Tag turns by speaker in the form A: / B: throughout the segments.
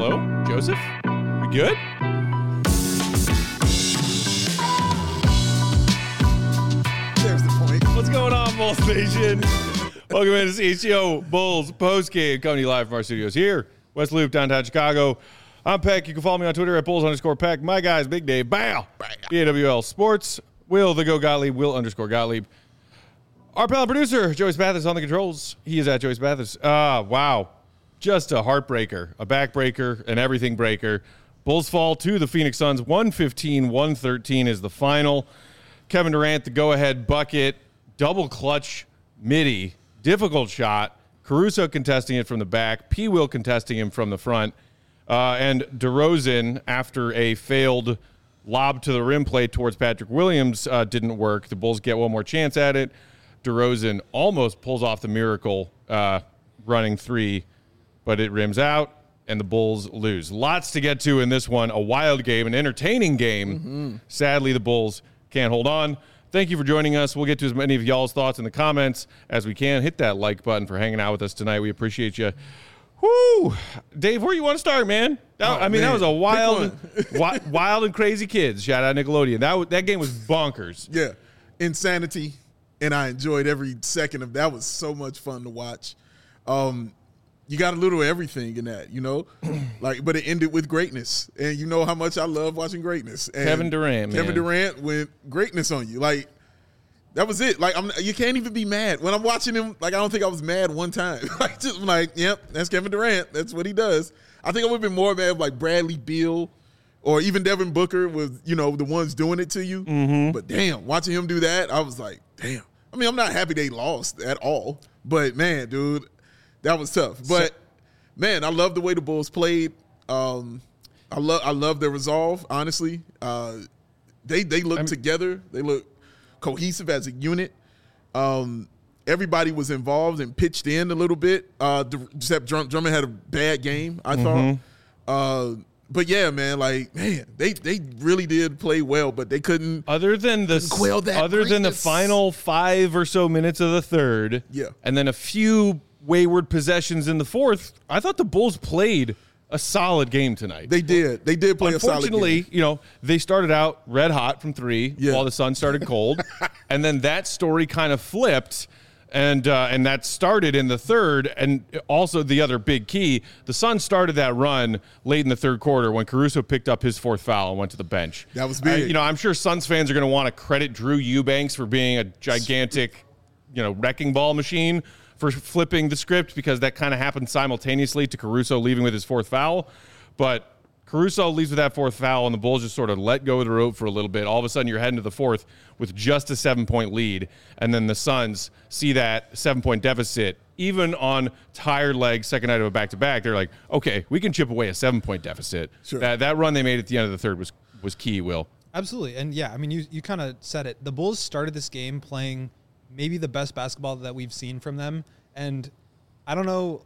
A: Hello, Joseph? We good?
B: There's the point.
A: What's going on, Bulls Nation? Welcome into CHGO Bulls postgame, coming to you live from our studios here, West Loop, downtown Chicago. I'm Peck. You can follow me on Twitter at Bulls_Peck. My guys, Big Dave, Bow, BAWL Sports, Will the Go Gottlieb, Will_Gottlieb. Our pal and producer, Joey Spathis, on the controls. He is at Joey Spathis. Wow. Just a heartbreaker, a backbreaker, an everything breaker. Bulls fall to the Phoenix Suns. 115-113 is the final. Kevin Durant, the go-ahead bucket, double clutch midi, difficult shot. Caruso contesting it from the back. P. Will contesting him from the front. And DeRozan, after a failed lob to the rim play towards Patrick Williams, didn't work. The Bulls get one more chance at it. DeRozan almost pulls off the miracle running three, but it rims out, and the Bulls lose. Lots to get to in this one. A wild game, an entertaining game. Mm-hmm. Sadly, the Bulls can't hold on. Thank you for joining us. We'll get to as many of y'all's thoughts in the comments as we can. Hit that like button for hanging out with us tonight. We appreciate you. Whoo! Dave, where you want to start, man? That was a wild and crazy kids. Shout out Nickelodeon. That game was bonkers.
B: Yeah, insanity. And I enjoyed every second of that. Was so much fun to watch. You got a little of everything in that, but it ended with greatness. And you know how much I love watching greatness. And
A: Kevin Durant, man.
B: Kevin Durant went greatness on you. Like, that was it. Like, you can't even be mad. When I'm watching him, like, I don't think I was mad one time. Yep, that's Kevin Durant. That's what he does. I think I would have been more mad if, like, Bradley Beal or even Devin Booker was, the ones doing it to you. Mm-hmm. But, damn, watching him do that, I was like, damn. I mean, I'm not happy they lost at all. But, man, dude, that was tough. But, man, I love the way the Bulls played. I love their resolve, honestly. They look together. They look cohesive as a unit. Everybody was involved and pitched in a little bit. Except Drummond had a bad game, I thought. But yeah, man, they really did play well, but they couldn't.
A: Other than the final 5 or so minutes of the third, and then a few wayward possessions in the fourth, I thought the Bulls played a solid game tonight.
B: They did play a solid game.
A: Unfortunately, they started out red hot from three while the sun started cold, and then that story kind of flipped. And that started in the third, and also the other big key, the Suns started that run late in the third quarter when Caruso picked up his fourth foul and went to the bench.
B: That was big.
A: I'm sure Suns fans are going to want to credit Drew Eubanks for being a gigantic, wrecking ball machine for flipping the script, because that kind of happened simultaneously to Caruso leaving with his fourth foul. But Caruso leaves with that fourth foul, and the Bulls just sort of let go of the rope for a little bit. All of a sudden, you're heading to the fourth with just a 7-point lead, and then the Suns see that 7-point deficit. Even on tired legs, second night of a back-to-back, they're like, okay, we can chip away a 7-point deficit. Sure. That run they made at the end of the third was key, Will. Absolutely.
C: And, yeah, I mean, you kind of said it. The Bulls started this game playing maybe the best basketball that we've seen from them, and I don't know,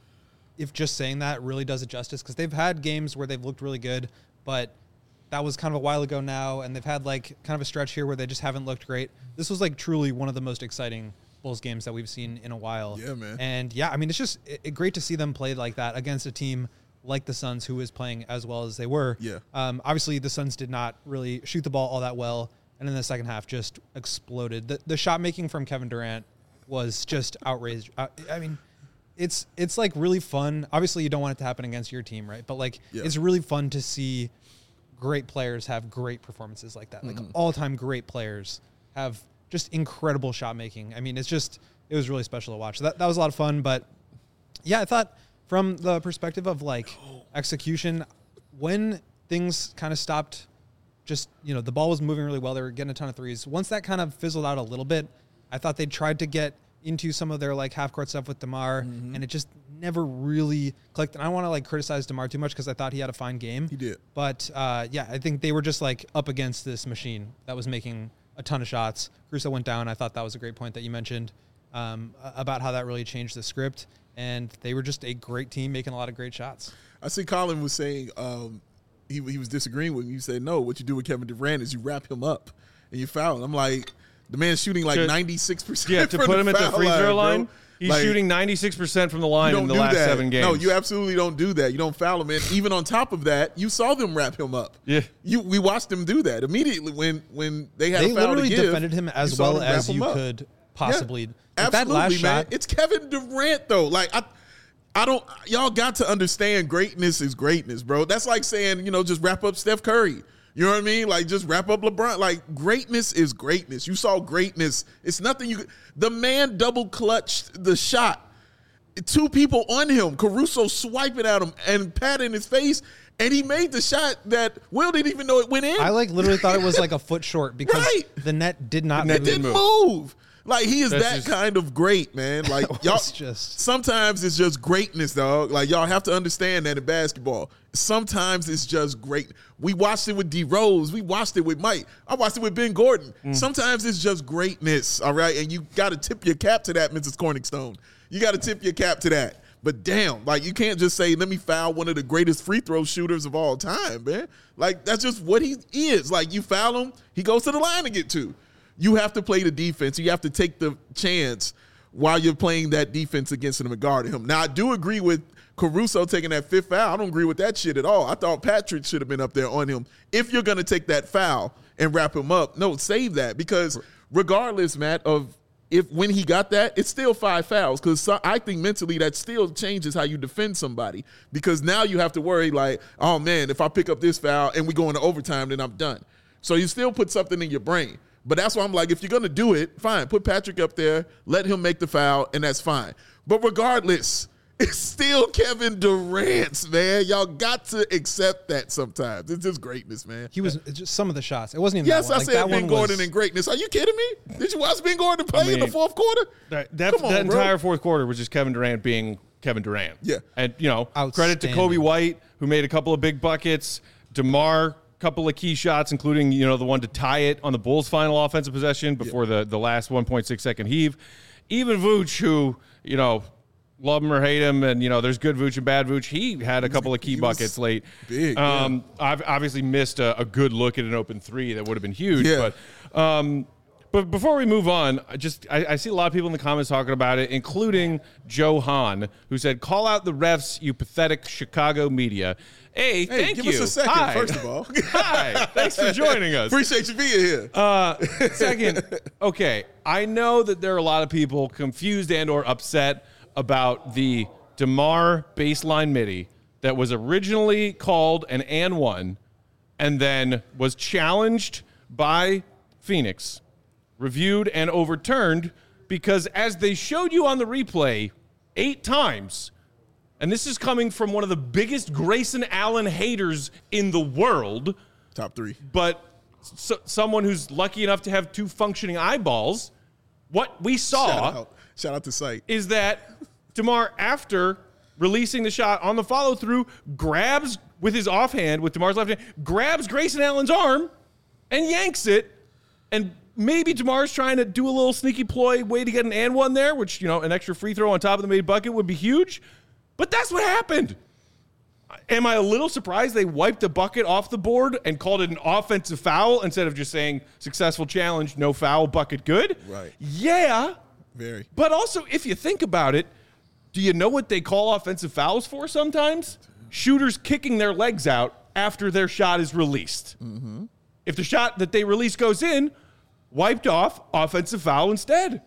C: if just saying that really does it justice, because they've had games where they've looked really good, but that was kind of a while ago now, and they've had kind of a stretch here where they just haven't looked great. This was truly one of the most exciting Bulls games that we've seen in a while.
B: Yeah, man.
C: And yeah, I mean, it's just great to see them play like that against a team like the Suns, who is playing as well as they were.
B: Yeah.
C: Obviously, the Suns did not really shoot the ball all that well, and in the second half just exploded. The shot making from Kevin Durant was just outrageous. I mean, it's really fun. Obviously, you don't want it to happen against your team, right? But it's really fun to see great players have great performances like that. All-time great players have just incredible shot making. I mean, it was really special to watch. So that was a lot of fun. But yeah, I thought from the perspective of execution, when things kind of stopped, just the ball was moving really well. They were getting a ton of threes. Once that kind of fizzled out a little bit, I thought they tried to get into some of their half-court stuff with DeMar, and it just never really clicked. And I don't want to criticize DeMar too much, because I thought he had a fine game.
B: He did.
C: But yeah, I think they were just up against this machine that was making a ton of shots. Caruso went down. I thought that was a great point that you mentioned about how that really changed the script. And they were just a great team making a lot of great shots.
B: I see Colin was saying he was disagreeing with me. You said, no, what you do with Kevin Durant is you wrap him up and you foul him. I'm like, the man's shooting 96%.
A: Yeah, to put him at the free throw line. He's
B: Like,
A: shooting 96% from the line
B: you
A: in
B: don't
A: the
B: do
A: last
B: that.
A: 7 games.
B: No, you absolutely don't do that. You don't foul him. And even on top of that, you saw them wrap him up.
A: Yeah.
B: We watched them do that immediately when they had
C: They
B: a foul
C: literally
B: to give.
C: defended him
B: you
C: as
B: saw
C: well
B: them wrap
C: as
B: him
C: you
B: up.
C: could possibly.
B: Yeah,
C: Like, that
B: absolutely,
C: last
B: man.
C: shot,
B: It's Kevin Durant though. Like I don't. Y'all got to understand greatness is greatness, bro. That's like saying just wrap up Steph Curry. You know what I mean? Like just wrap up LeBron. Like greatness is greatness. You saw greatness. It's nothing you. The man double clutched the shot. 2 people on him. Caruso swiping at him and pat in his face. And he made the shot that Will didn't even know it went in.
C: I literally thought it was like a foot short because
B: Right.
C: the net did not
A: net
C: move.
B: didn't move. Like he is
A: That's
B: that
A: just-
B: kind of great, man. Like y'all
C: just-
B: sometimes it's just greatness, dog. Like y'all have to understand that in basketball. Sometimes it's just great. We watched it with D Rose. We watched it with Mike. I watched it with Ben Gordon. Sometimes it's just greatness, all right? And you got to tip your cap to that, Mrs. Corningstone. You got to tip your cap to that. But damn, like you can't just say, let me foul one of the greatest free throw shooters of all time, man. Like that's just what he is. Like you foul him, he goes to the line to get 2. You have to play the defense. You have to take the chance while you're playing that defense against him and guarding him. Now, I do agree with Caruso taking that 5th foul. I don't agree with that shit at all. I thought Patrick should have been up there on him. If you're going to take that foul and wrap him up, no, save that. Because regardless, Matt, of when he got that, it's still 5 fouls. Because I think mentally that still changes how you defend somebody. Because now you have to worry like, oh, man, if I pick up this foul and we go into overtime, then I'm done. So you still put something in your brain. But that's why I'm like, if you're going to do it, fine. Put Patrick up there. Let him make the foul, and that's fine. But regardless, it's still Kevin Durant's, man. Y'all got to accept that sometimes. It's just greatness, man.
C: He was just some of the shots. It wasn't even
B: Yes,
C: that one.
B: I said Ben Gordon and greatness. Are you kidding me? Did you watch Ben Gordon play in the 4th quarter?
A: That
B: Come on,
A: that
B: bro.
A: entire 4th quarter was just Kevin Durant being Kevin Durant.
B: Yeah.
A: And, credit to
C: Outstanding.
A: Kobe White, who made a couple of big buckets. DeMar, couple of key shots, including, the one to tie it on the Bulls' final offensive possession before the last 1.6 second heave. Even Vooch, who, love him or hate him, and, there's good Vooch and bad Vooch, he had a couple of key buckets late.
B: big,
A: I've obviously missed a good look at an open 3 that would have been huge.
B: Yeah.
A: But before we move on, I see a lot of people in the comments talking about it, including Joe Hahn, who said, call out the refs, you pathetic Chicago media. Hey, thank
B: give
A: you.
B: us a second,
A: Hi.
B: first of all.
A: Hi. Thanks for joining us.
B: Appreciate you being here.
A: Second, okay, I know that there are a lot of people confused and or upset about the DeMar baseline midi that was originally called an and one and then was challenged by Phoenix, reviewed and overturned because as they showed you on the replay 8 times, and this is coming from one of the biggest Grayson Allen haters in the world,
B: Top 3.
A: but someone who's lucky enough to have 2 functioning eyeballs, what we saw
B: Shout out to Sight.
A: is that DeMar, after releasing the shot on the follow-through, grabs with his offhand, with DeMar's left hand, grabs Grayson Allen's arm and yanks it. And maybe DeMar's trying to do a little sneaky ploy way to get an and one there, which, an extra free throw on top of the made bucket would be huge. But that's what happened. Am I a little surprised they wiped a bucket off the board and called it an offensive foul instead of just saying successful challenge, no foul, bucket good?
B: Right.
A: Yeah.
B: Very.
A: But also, if you think about it, do you know what they call offensive fouls for sometimes? Shooters kicking their legs out after their shot is released. Mm-hmm. If the shot that they release goes in, wiped off, offensive foul instead.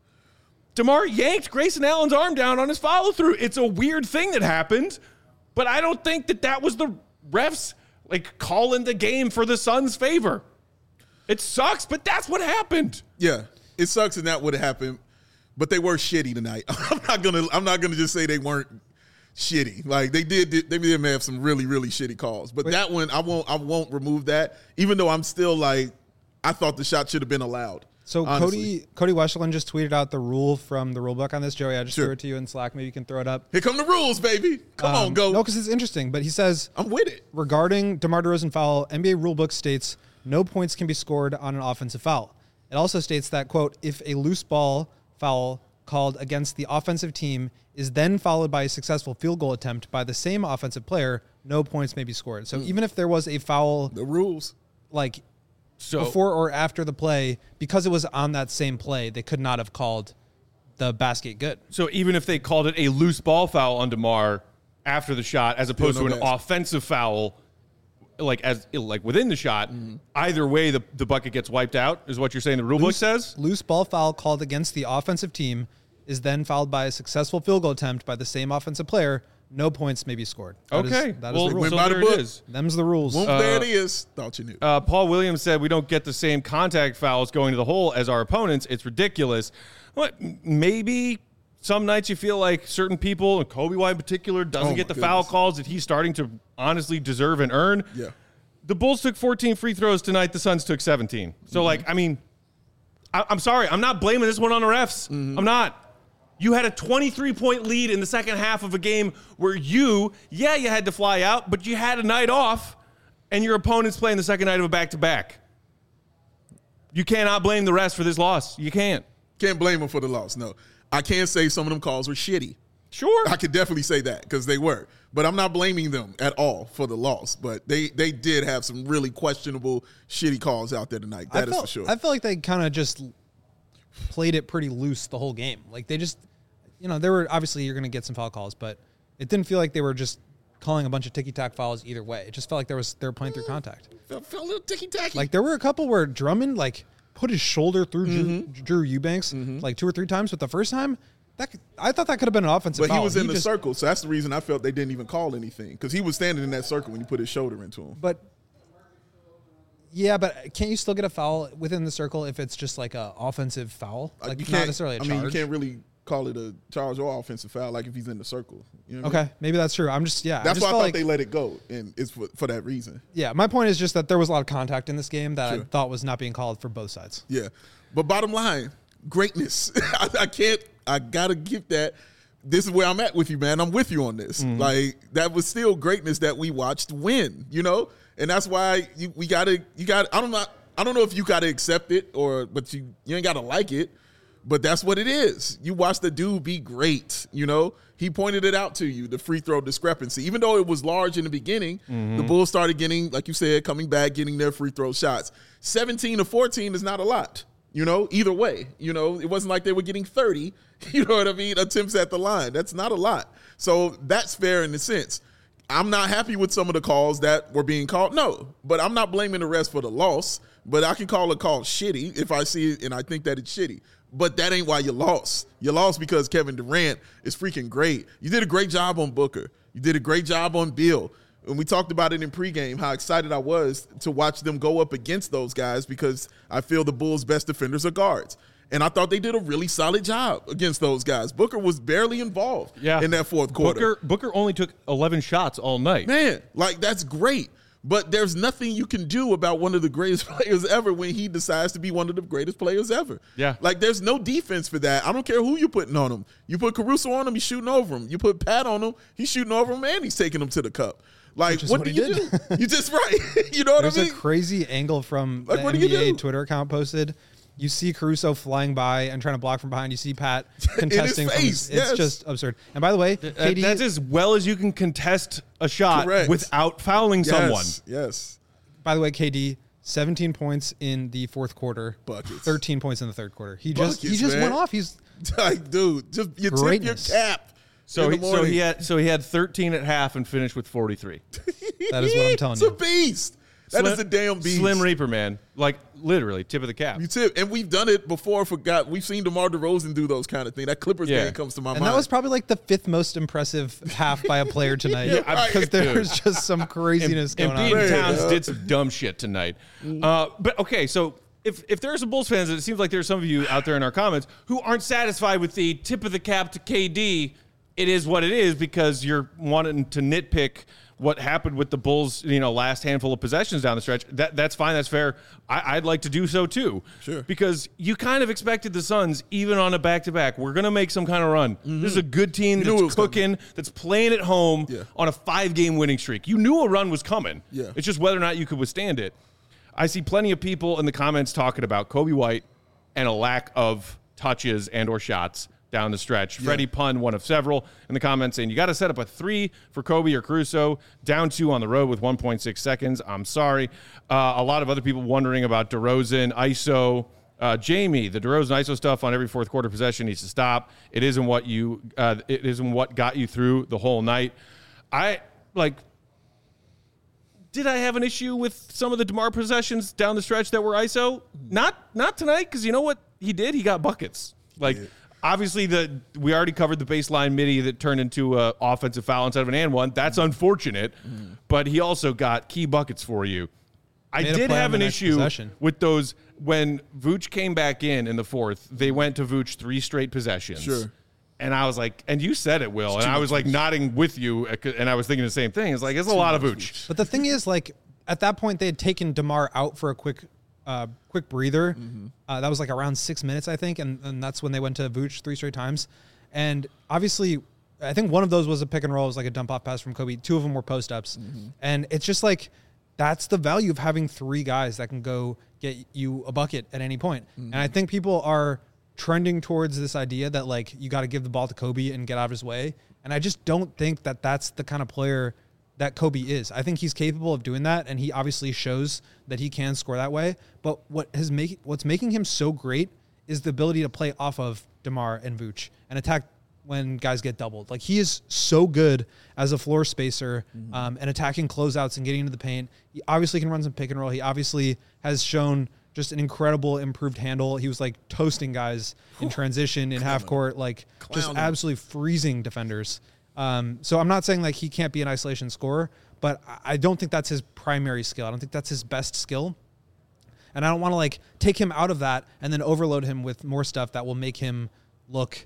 A: DeMar yanked Grayson Allen's arm down on his follow-through. It's a weird thing that happened, but I don't think that was the refs calling the game for the Suns' favor. It sucks, but that's what happened.
B: Yeah, it sucks and that would have happened, but they were shitty tonight. I'm not gonna just say they weren't shitty. Like they did have some really, really shitty calls. But that one, I won't remove that. Even though I'm still like, I thought the shot should have been allowed.
C: So
B: honestly.
C: Cody Westerlund just tweeted out the rule from the rule book on this. Joey, I just
B: Sure.
C: threw it to you in Slack. Maybe you can throw it up.
B: Here come the rules, baby. Come on, go.
C: No, because it's interesting. But he says,
B: I'm with it.
C: regarding DeMar DeRozan foul, NBA rulebook states no points can be scored on an offensive foul. It also states that, quote, if a loose ball foul called against the offensive team is then followed by a successful field goal attempt by the same offensive player, no points may be scored. So even if there was a foul,
B: The rules.
C: before or after the play, because it was on that same play, they could not have called the basket good.
A: So even if they called it a loose ball foul on DeMar after the shot, as opposed to an offensive foul, like within the shot, either way the bucket gets wiped out, is what you're saying the rule book says?
C: Loose ball foul called against the offensive team is then fouled by a successful field goal attempt by the same offensive player. No points may be scored. That is the rule.
A: So there it is.
C: Them's the rules.
B: There it is. Thought you knew.
A: Paul Williams said we don't get the same contact fouls going to the hole as our opponents. It's ridiculous. Well, maybe some nights you feel like certain people, and Kobe White in particular, doesn't get the foul calls that he's starting to honestly deserve and earn.
B: Yeah.
A: The Bulls took 14 free throws tonight. The Suns took 17. So, I'm sorry. I'm not blaming this one on the refs. I'm not. You had a 23-point lead in the second half of a game where you had to fly out, but you had a night off, and your opponent's playing the second night of a back-to-back. You cannot blame the refs for this loss. You can't.
B: Can't blame them for the loss, no. I can say some of them calls were shitty.
A: Sure.
B: I could definitely say that because they were. But I'm not blaming them at all for the loss. But they did have some really questionable, shitty calls out there tonight. That is for sure.
C: I felt like they kind of just played it pretty loose the whole game. Like they just, there were obviously you're going to get some foul calls, but it didn't feel like they were just calling a bunch of ticky-tack fouls either way. It just felt like they were playing through contact.
B: Felt a little ticky-tacky.
C: Like there were a couple where Drummond put his shoulder through Drew Eubanks like 2 or 3 times, but the first time, I thought that could have been an offensive foul.
B: But he was in the circle, so that's the reason I felt they didn't even call anything because he was standing in that circle when he put his shoulder into him.
C: But can't you still get a foul within the circle if it's just like an offensive foul? Like not necessarily a charge.
B: You can't really call it a charge or offensive foul like if he's in the circle. You know
C: okay, maybe that's true. That's
B: why I thought they let it go, and it's for that reason.
C: Yeah, my point is just that there was a lot of contact in this game that I thought was not being called for both sides.
B: Yeah, but bottom line, greatness. I gotta give that. This is where I'm at with you, man. I'm with you on this. Like that was still greatness that we watched win, and that's why we gotta. I don't know if you gotta accept it but you ain't gotta like it. But that's what it is. You watch the dude be great, He pointed it out to you, the free throw discrepancy. Even though it was large in the beginning, the Bulls started getting, like you said, coming back, getting their free throw shots. 17 to 14 is not a lot, either way. It wasn't like they were getting 30, attempts at the line. That's not a lot. So that's fair in a sense. I'm not happy with some of the calls that were being called. No, but I'm not blaming the refs for the loss. But I can call a call shitty if I see it and I think that it's shitty. But that ain't why you lost. You lost because Kevin Durant is freaking great. You did a great job on Booker. You did a great job on Bill. And we talked about it in pregame, how excited I was to watch them go up against those guys because I feel the Bulls' best defenders are guards. And I thought they did a really solid job against those guys. Booker was barely involved in that fourth quarter.
A: Booker only took 11 shots all night.
B: Man, that's great. But there's nothing you can do about one of the greatest players ever when he decides to be one of the greatest players ever.
A: Yeah.
B: There's no defense for that. I don't care who you're putting on him. You put Caruso on him, he's shooting over him. You put Pat on him, he's shooting over him, and he's taking him to the cup. What do you do? You just right. You know what I mean?
C: There's a crazy angle from the NBA Twitter account posted. You see Caruso flying by and trying to block from behind. You see Pat contesting
B: in his face.
C: It's just absurd. And by the way, KD,
A: that's as well as you can contest a shot without fouling someone.
B: Yes.
C: By the way, KD, 17 points in the fourth quarter.
B: Buckets.
C: 13 points in the third quarter. He just went off. He's
B: dude, just you tip your cap.
A: So he had 13 at half and finished with 43.
C: That is what I'm telling you.
B: It's a beast. That is a damn beast.
A: Slim Reaper, man. Literally, tip of the cap.
B: You tip. And we've done it before. We've seen DeMar DeRozan do those kind of things. That Clippers game comes to my mind.
C: And that was probably the 5th most impressive half by a player tonight. Because there's just some craziness going on.
A: And Towns did some dumb shit tonight. But, okay, so if there are some Bulls fans, it seems like there's some of you out there in our comments who aren't satisfied with the tip of the cap to KD. It is what it is because you're wanting to nitpick what happened with the Bulls, last handful of possessions down the stretch. That's fine. That's fair. I'd like to do so too.
B: Sure.
A: Because you kind of expected the Suns, even on a back-to-back, we're going to make some kind of run. Mm-hmm. This is a good team that's cooking, that's playing at home on a 5-game winning streak. You knew a run was coming.
B: Yeah.
A: It's just whether or not you could withstand it. I see plenty of people in the comments talking about Kobe White and a lack of touches and or shots down the stretch. Freddie Pun, one of several, in the comments saying, you got to set up a 3 for Kobe or Caruso, down 2 on the road with 1.6 seconds. I'm sorry. A lot of other people wondering about DeRozan, ISO, Jamie, the DeRozan ISO stuff on every fourth quarter possession needs to stop. It isn't what got you through the whole night. Did I have an issue with some of the DeMar possessions down the stretch that were ISO? Not tonight, because you know what he did? He got buckets. Obviously, we already covered the baseline midi that turned into an offensive foul instead of an and one. That's unfortunate, but he also got key buckets for you. I did have an issue with those when Vooch came back in the fourth. They went to Vooch 3 straight possessions.
B: Sure.
A: And I was like, and you said it, Will, and I was like nodding with you, and I was thinking the same thing. It's like, it's a lot of Vooch.
C: But the thing is, like, at that point, they had taken DeMar out for a quick breather. That was like around 6 minutes, I think, and that's when they went to Vooch 3 straight times. And obviously, I think one of those was a pick and roll. It was like a dump off pass from Kobe. 2 of them were post ups, and it's just like that's the value of having 3 guys that can go get you a bucket at any point. And I think people are trending towards this idea that like you got to give the ball to Kobe and get out of his way. And I just don't think that that's the kind of player that Kobe is. I think he's capable of doing that, and he obviously shows that he can score that way. But what's making him so great is the ability to play off of DeMar and Vooch and attack when guys get doubled. Like, he is so good as a floor spacer and attacking closeouts and getting into the paint. He obviously can run some pick and roll. He obviously has shown just an incredible improved handle. He was like toasting guys in transition in half court, like just absolutely freezing defenders. So I'm not saying like he can't be an isolation scorer, but I don't think that's his primary skill. I don't think that's his best skill. And I don't want to like take him out of that and then overload him with more stuff that will make him look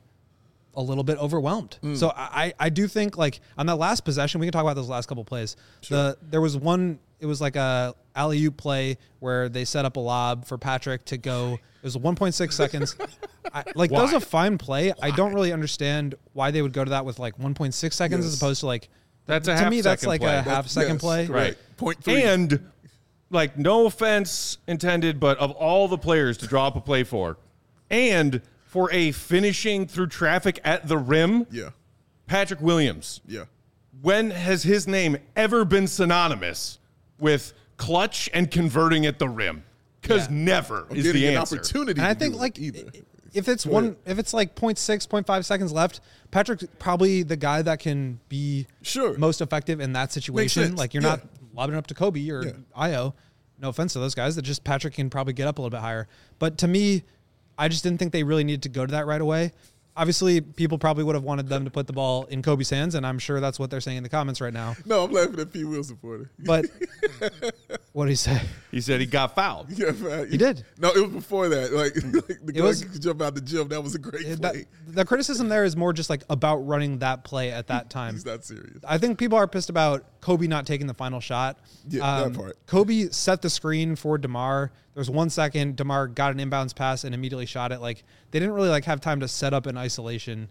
C: a little bit overwhelmed. So I do think like on that last possession, we can talk about those last couple plays. Sure. There was one, it was like a alley-oop play where they set up a lob for Patrick to go. It was 1.6 seconds. That was a fine play. Why? I don't really understand why they would go to that with like 1.6 seconds as opposed to like,
A: that's a
C: to
A: half
C: me, that's like
A: play.
C: a half-second play.
A: Right.
B: 0.3.
A: And like, no offense intended, but of all the players to draw up a play for, and for a finishing through traffic at the rim, Patrick Williams.
B: Yeah.
A: When has his name ever been synonymous with clutch and converting at the rim? Because never is the answer.
B: An opportunity.
C: And I think like if it's like 0.6, 0.5 seconds left, Patrick's probably the guy that can be most effective in that situation. Like, you're not lobbing up to Kobe or Io. No offense to those guys. That just Patrick can probably get up a little bit higher. But to me, I just didn't think they really needed to go to that right away. Obviously, people probably would have wanted them to put the ball in Kobe's hands, and I'm sure that's what they're saying in the comments right now.
B: No, I'm laughing at P. Will supporter.
C: But what did he say?
A: He said he got fouled.
C: He did.
B: No, it was before that. Like the guy could jump out the gym. That was a great play.
C: The criticism there is more just like about running that play at that time.
B: He's not serious.
C: I think people are pissed about Kobe not taking the final shot.
B: Yeah, that part.
C: Kobe set the screen for DeMar. There was 1 second. DeMar got an inbounds pass and immediately shot it. Like, they didn't really like have time to set up an isolation.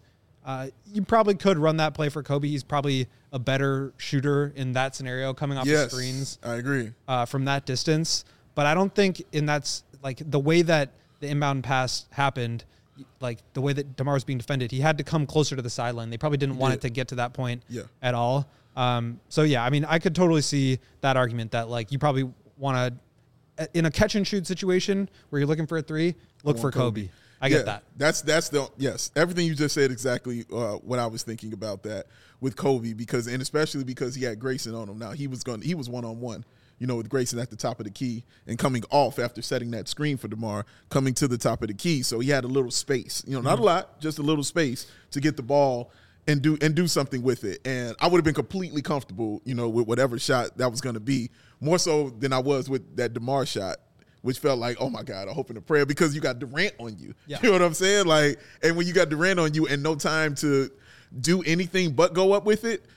C: You probably could run that play for Kobe. He's probably a better shooter in that scenario, coming off the screens.
B: I agree.
C: From that distance. But I don't think that's like the way that the inbound pass happened, like the way that DeMar was being defended, he had to come closer to the sideline. They probably didn't want it to get to that point at all. So yeah, I mean, I could totally see that argument that like you probably want to, in a catch and shoot situation where you're looking for a 3, look for Kobe. I get that.
B: That's everything you just said exactly what I was thinking about that with Kobe, because especially because he had Grayson on him. Now he was 1-on-1, with Grayson at the top of the key and coming off after setting that screen for DeMar, coming to the top of the key. So he had a little space, not a lot, just a little space to get the ball and do something with it. And I would have been completely comfortable, with whatever shot that was going to be, more so than I was with that DeMar shot, which felt like, oh my God, I hope in a prayer, because you got Durant on you. Yeah. You know what I'm saying? Like, and when you got Durant on you and no time to do anything but go up with it,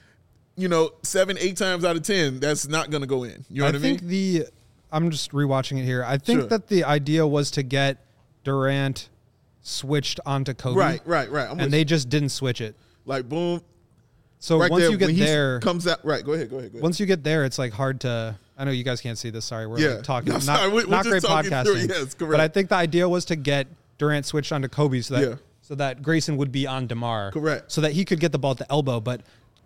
B: 7-8 times out of 10, that's not going to go in. You know what I mean?
C: I'm just rewatching it here. I think that the idea was to get Durant switched onto Kobe.
B: Right.
C: And they just didn't switch it.
B: Like, boom.
C: So
B: right
C: once
B: there,
C: you get there,
B: comes out. Right. Go ahead.
C: Once you get there, it's like hard to. I know you guys can't see this. Sorry, we're like talking.
B: No,
C: not great podcasting.
B: Yes, correct.
C: But I think the idea was to get Durant switched onto Kobe so that Grayson would be on DeMar.
B: Correct.
C: So that he could get the ball at the elbow. But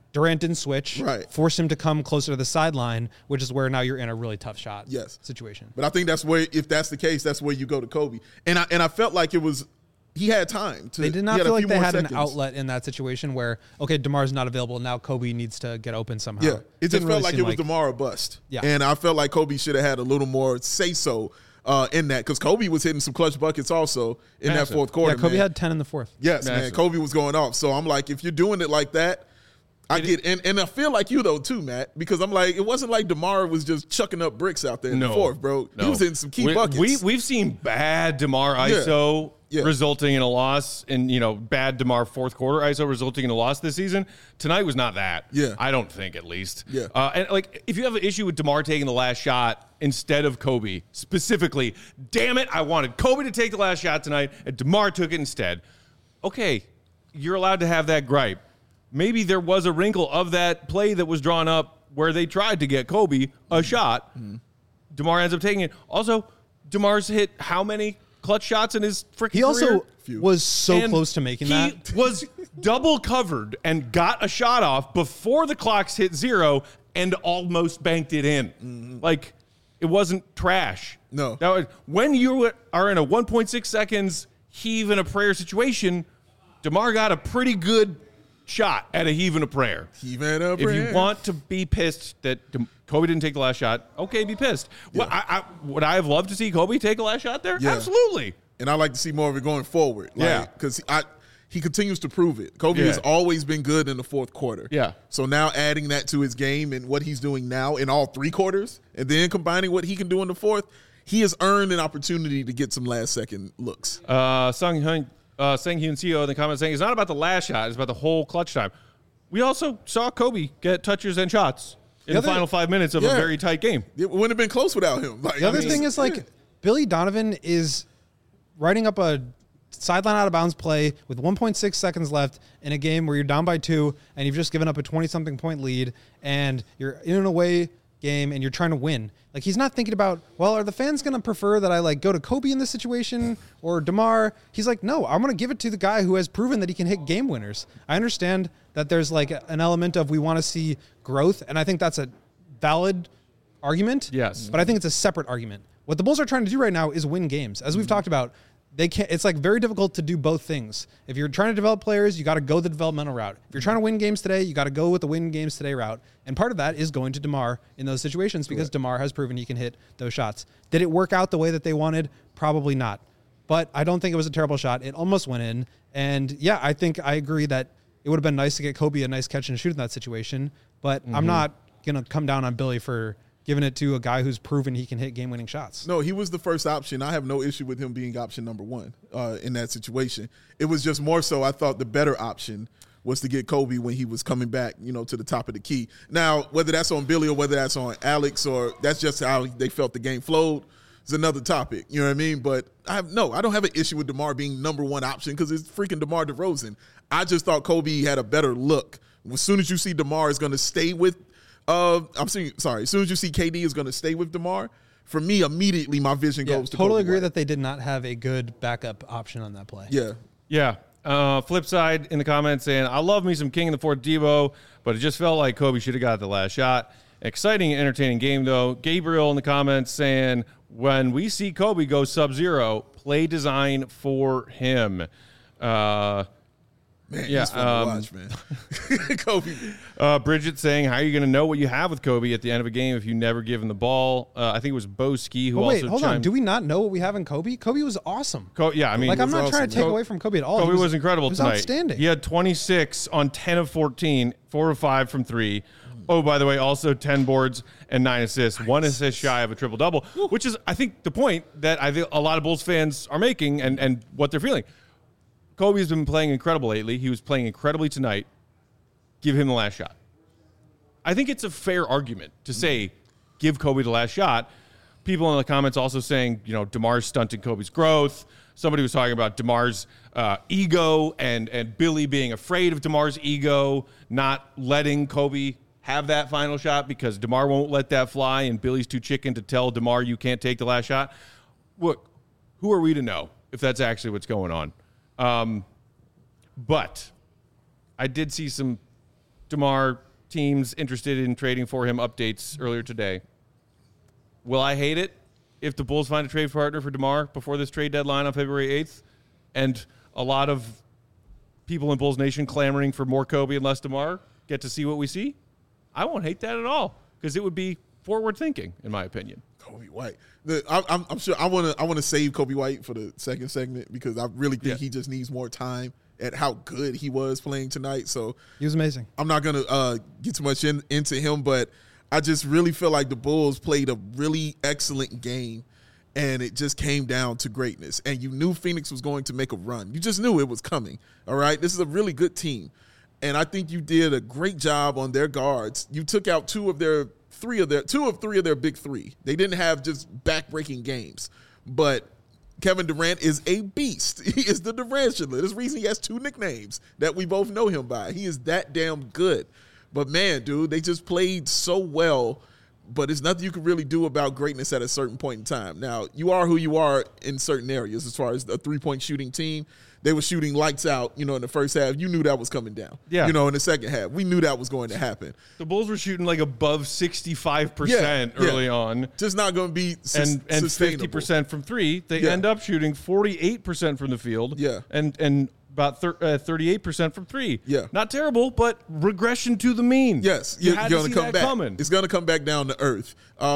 C: Durant didn't switch,
B: Right.
C: forced him to come closer to the sideline, which is where now you're in a really tough shot
B: Yes.
C: situation.
B: But I think that's where, if that's the case, that's where you go to Kobe. And I felt like it was, he had time to.
C: They did
B: he
C: not
B: had a
C: feel like
B: few
C: they
B: more
C: had
B: seconds.
C: an outlet in that situation where, okay, DeMar's not available. Now Kobe needs to get open somehow.
B: Yeah, it just
C: Didn't
B: felt
C: really
B: like
C: seem
B: it was DeMar or bust.
C: Yeah.
B: And I felt like Kobe should have had a little more say-so in that, because Kobe was hitting some clutch buckets also in
A: Massive.
B: that fourth quarter.
C: Yeah, Kobe
B: man.
C: had 10 in the fourth.
B: Yes, man.
A: Massive.
B: Kobe was going off. So I'm like, if you're doing it like that, I get, and I feel like you though too, Matt, because I'm like, it wasn't like DeMar was just chucking up bricks out there in the fourth, bro.
A: No.
B: He was hitting some key buckets.
A: We've seen bad DeMar ISO
B: Yeah.
A: resulting in a loss, and bad DeMar fourth quarter ISO resulting in a loss this season. Tonight was not that.
B: Yeah.
A: I don't think, at least.
B: Yeah.
A: And like, if you have an issue with DeMar taking the last shot instead of Kobe specifically, damn it, I wanted Kobe to take the last shot tonight, and DeMar took it instead. Okay, you're allowed to have that gripe. Maybe there was a wrinkle of that play that was drawn up where they tried to get Kobe a shot. DeMar ends up taking it. Also, DeMar's hit how many clutch shots in his freaking
C: He
A: career?
C: also
B: Few.
C: was so
A: And
C: close to making that.
A: He was double covered and got a shot off before the clocks hit 0 and almost banked it in. Like, it wasn't trash.
B: No.
A: That was, when you are in a 1.6 seconds heave and a prayer situation, DeMar got a pretty good shot at a heave and a prayer.
B: Even up
A: If you want to be pissed that Kobe didn't take the last shot, okay, be pissed.
B: Yeah.
A: Would I have loved to see Kobe take a last shot there?
B: Yeah.
A: Absolutely.
B: and I like to see more of it going forward.
A: Yeah.
B: Because he continues to prove it. Kobe
A: Yeah.
B: has always been good in the fourth quarter.
A: Yeah.
B: So now adding that to his game and what he's doing now in all three quarters, and then combining what he can do in the fourth, he has earned an opportunity to get some last second looks.
A: Sang Hyun CEO in the comments saying it's not about the last shot, it's about the whole clutch time. We also saw Kobe get touches and shots in the
B: other-
A: final 5 minutes of a
B: Yeah.
A: very tight game.
B: It wouldn't have been close without him. Like,
C: The other
B: I mean,
C: thing is, like,
B: yeah.
C: Billy Donovan is writing up a sideline out of bounds play with 1.6 seconds left in a game where you're down by 2 and you've just given up a 20-something point lead and you're in an away game and you're trying to win. Like, he's not thinking about, well, are the fans going to prefer that I, like, go to Kobe in this situation or DeMar? He's like, no, I'm going to give it to the guy who has proven that he can hit game winners. I understand that there's, like, an element of we want to see growth, and I think that's a valid argument.
A: Yes.
C: But I think it's a separate argument. What the Bulls are trying to do right now is win games. As we've talked about, they can't. It's like very difficult to do both things. If you're trying to develop players, you got to go the developmental route. If you're trying to win games today, you got to go with the win games today route. And part of that is going to DeMar in those situations because DeMar has proven he can hit those shots. Did it work out the way that they wanted? Probably not. But I don't think it was a terrible shot. It almost went in. And yeah, I think I agree that it would have been nice to get Kobe a nice catch and shoot in that situation. But I'm not going to come down on Billy for giving it to a guy who's proven he can hit game-winning shots.
B: No, he was the first option. I have no issue with him being option number one in that situation. It was just more so I thought the better option was to get Kobe when he was coming back, to the top of the key. Now, whether that's on Billy or whether that's on Alex or that's just how they felt the game flowed is another topic. You know what I mean? But I don't have an issue with DeMar being number one option because it's freaking DeMar DeRozan. I just thought Kobe had a better look. As soon as you see DeMar is going to stay with as soon as you see KD is going to stay with DeMar, for me, immediately my vision goes to
C: totally
B: Kobe
C: agree
B: White.
C: that they did not have a good backup option on that play.
B: Yeah.
A: Yeah. Flip side in the comments saying, I love me some King in the Fourth Debo, but it just felt like Kobe should have got the last shot. Exciting and entertaining game, though. Gabriel in the comments saying, when we see Kobe go sub-zero, play design for him.
B: Man,
A: Yeah,
B: he's fun to watch, man. Kobe.
A: Bridget saying, how are you going to know what you have with Kobe at the end of a game if you never give him the ball? I think it was Bo Ski who
C: But wait,
A: also
C: hold on.
A: chimed-
C: Do we not know what we have in Kobe? Kobe was awesome.
A: Yeah, I mean,
C: Like, I'm not
B: awesome.
C: trying to take away from Kobe at all.
A: Kobe
C: He
A: was incredible
C: he was
A: tonight.
C: outstanding.
A: He had 26 on 10 of 14, 4 of 5 from 3. Oh, by the way, also 10 boards and 9 assists, 1 assist shy of a triple-double, which is, I think, the point that I think a lot of Bulls fans are making and what they're feeling. Kobe's been playing incredible lately. He was playing incredibly tonight. Give him the last shot. I think it's a fair argument to say, give Kobe the last shot. People in the comments also saying, DeMar's stunting Kobe's growth. Somebody was talking about DeMar's ego and Billy being afraid of DeMar's ego, not letting Kobe have that final shot because DeMar won't let that fly and Billy's too chicken to tell DeMar you can't take the last shot. Look, who are we to know if that's actually what's going on? But I did see some DeMar teams interested in trading for him updates earlier today. Will I hate it if the Bulls find a trade partner for DeMar before this trade deadline on February 8th? And a lot of people in Bulls Nation clamoring for more Kobe and less DeMar get to see what we see? I won't hate that at all because it would be forward thinking, in my opinion.
B: Kobe White. I'm sure I want to save Kobe White for the second segment because I really think he just needs more time at how good he was playing tonight. So
C: He was amazing.
B: I'm not going to get too much into him, but I just really feel like the Bulls played a really excellent game, and it just came down to greatness. And you knew Phoenix was going to make a run. You just knew it was coming, all right? This is a really good team, and I think you did a great job on their guards. You took out two of three of their big three. They didn't have just back-breaking games, but Kevin Durant is a beast. He is the Durantula. There's a reason he has 2 nicknames that we both know him by. He is that damn good. But, man, dude, they just played so well, but there's nothing you can really do about greatness at a certain point in time. Now, you are who you are in certain areas as far as a three-point shooting team. They were shooting lights out, in the first half. You knew that was coming down.
A: Yeah.
B: In the second half. We knew that was going to happen.
A: The Bulls were shooting like above 65% early on.
B: Just not going to be
A: and
B: sustainable.
A: 50% from three. They end up shooting 48% from the field.
B: Yeah.
A: And about 38% from three.
B: Yeah.
A: Not terrible, but regression to the mean.
B: Yes.
A: You
B: You're
A: had
B: going
A: to
B: to
A: see
B: come
A: that
B: back.
A: coming.
B: It's going to come back down to earth.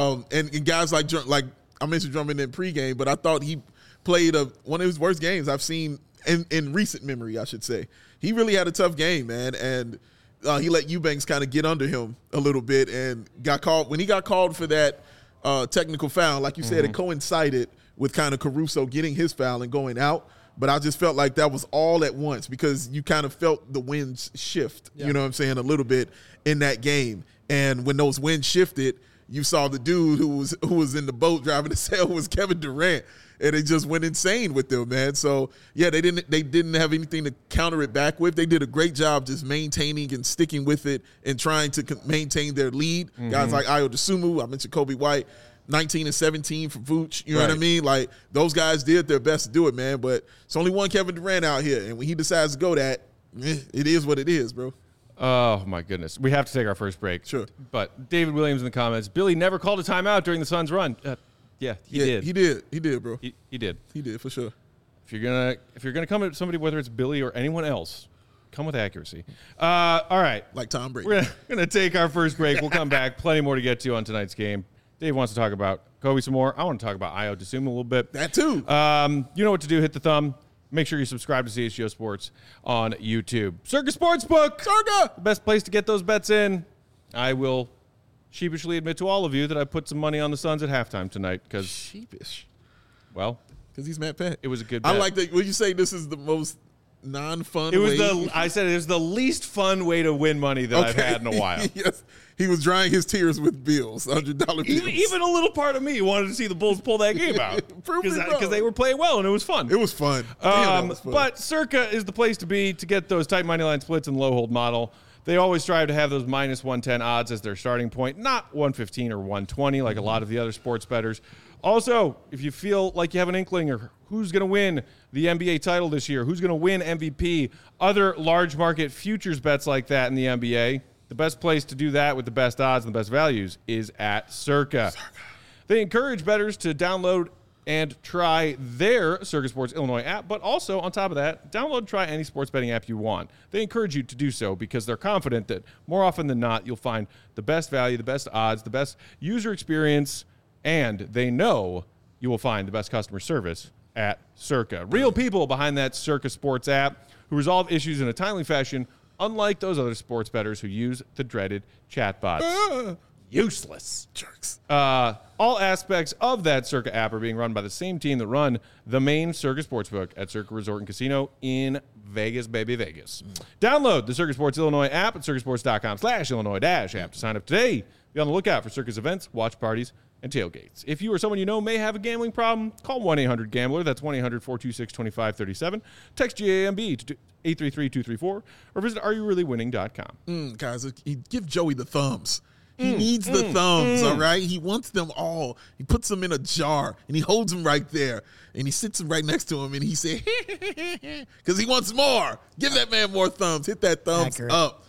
B: And guys like I mentioned Drummond in pregame, but I thought he played one of his worst games I've seen in recent memory, I should say. He really had a tough game, man, and he let Eubanks kind of get under him a little bit and got called. When he got called for that technical foul, like you said, it coincided with kind of Caruso getting his foul and going out, but I just felt like that was all at once because you kind of felt the winds shift, you know what I'm saying, a little bit in that game. And when those winds shifted, you saw the dude who was in the boat driving the sail was Kevin Durant, and it just went insane with them, man. So yeah, they didn't have anything to counter it back with. They did a great job just maintaining and sticking with it and trying to maintain their lead. Guys like Ayo Dosunmu, I mentioned Kobe White, 19 and 17 for Vooch. You know what I mean? Like those guys did their best to do it, man. But it's only one Kevin Durant out here, and when he decides to go that, it is what it is, bro.
A: Oh, my goodness. We have to take our first break.
B: Sure.
A: But David Williams in the comments, Billy never called a timeout during the Suns' run. Yeah, he did.
B: He did, bro.
A: He did.
B: He did, for sure.
A: If you're gonna come at somebody, whether it's Billy or anyone else, come with accuracy. All right.
B: Like Tom Brady.
A: We're gonna take our first break. We'll come back. Plenty more to get to on tonight's game. Dave wants to talk about Kobe some more. I want to talk about Ayo Dosunmu a little bit.
B: That too.
A: You know what to do. Hit the thumb. Make sure you subscribe to CHGO Sports on YouTube. Circa Sportsbook.
B: Circa.
A: The best place to get those bets in. I will sheepishly admit to all of you that I put some money on the Suns at halftime tonight because,
B: Sheepish.
A: well,
B: Because he's Matt Pat.
A: it was a good bet.
B: I like that. When you say this is the most non-fun
A: It was
B: way.
A: I said it was the least fun way to win money that I've had in a while.
B: Yes. He was drying his tears with bills, $100 bills.
A: Even a little part of me wanted to see the Bulls pull that game out
B: Prove me wrong.
A: because they were playing well and it was fun.
B: It was fun. Damn, that was fun.
A: But Circa is the place to be to get those tight money line splits and low hold model. They always strive to have those minus 110 odds as their starting point, not 115 or 120 like a lot of the other sports bettors. Also, if you feel like you have an inkling or who's going to win the NBA title this year, who's going to win MVP, other large market futures bets like that in the NBA, the best place to do that with the best odds and the best values is at Circa. They encourage bettors to download and try their Circa Sports Illinois app, but also, on top of that, download and try any sports betting app you want. They encourage you to do so because they're confident that more often than not, you'll find the best value, the best odds, the best user experience, and they know you will find the best customer service at Circa. Real people behind that Circa Sports app who resolve issues in a timely fashion, unlike those other sports bettors who use the dreaded chatbots. Useless.
B: Jerks.
A: All aspects of that Circa app are being run by the same team that run the main Circa Sportsbook at Circa Resort and Casino in Vegas, baby, Vegas. Download the Circa Sports Illinois app at circasports.com/Illinois-app to sign up today. Be on the lookout for Circa's events, watch parties, and tailgates. If you or someone you know may have a gambling problem, call 1-800-GAMBLER. That's 1-800-426-2537. Text GAMB to 833-234 or visit areyoureallywinning.com.
B: Guys, give Joey the thumbs. He needs the thumbs, all right? He wants them all. He puts them in a jar, and he holds them right there, and he sits them right next to him, and he says, because he wants more. Give that man more thumbs. Hit that thumbs
C: Accurate.
B: up.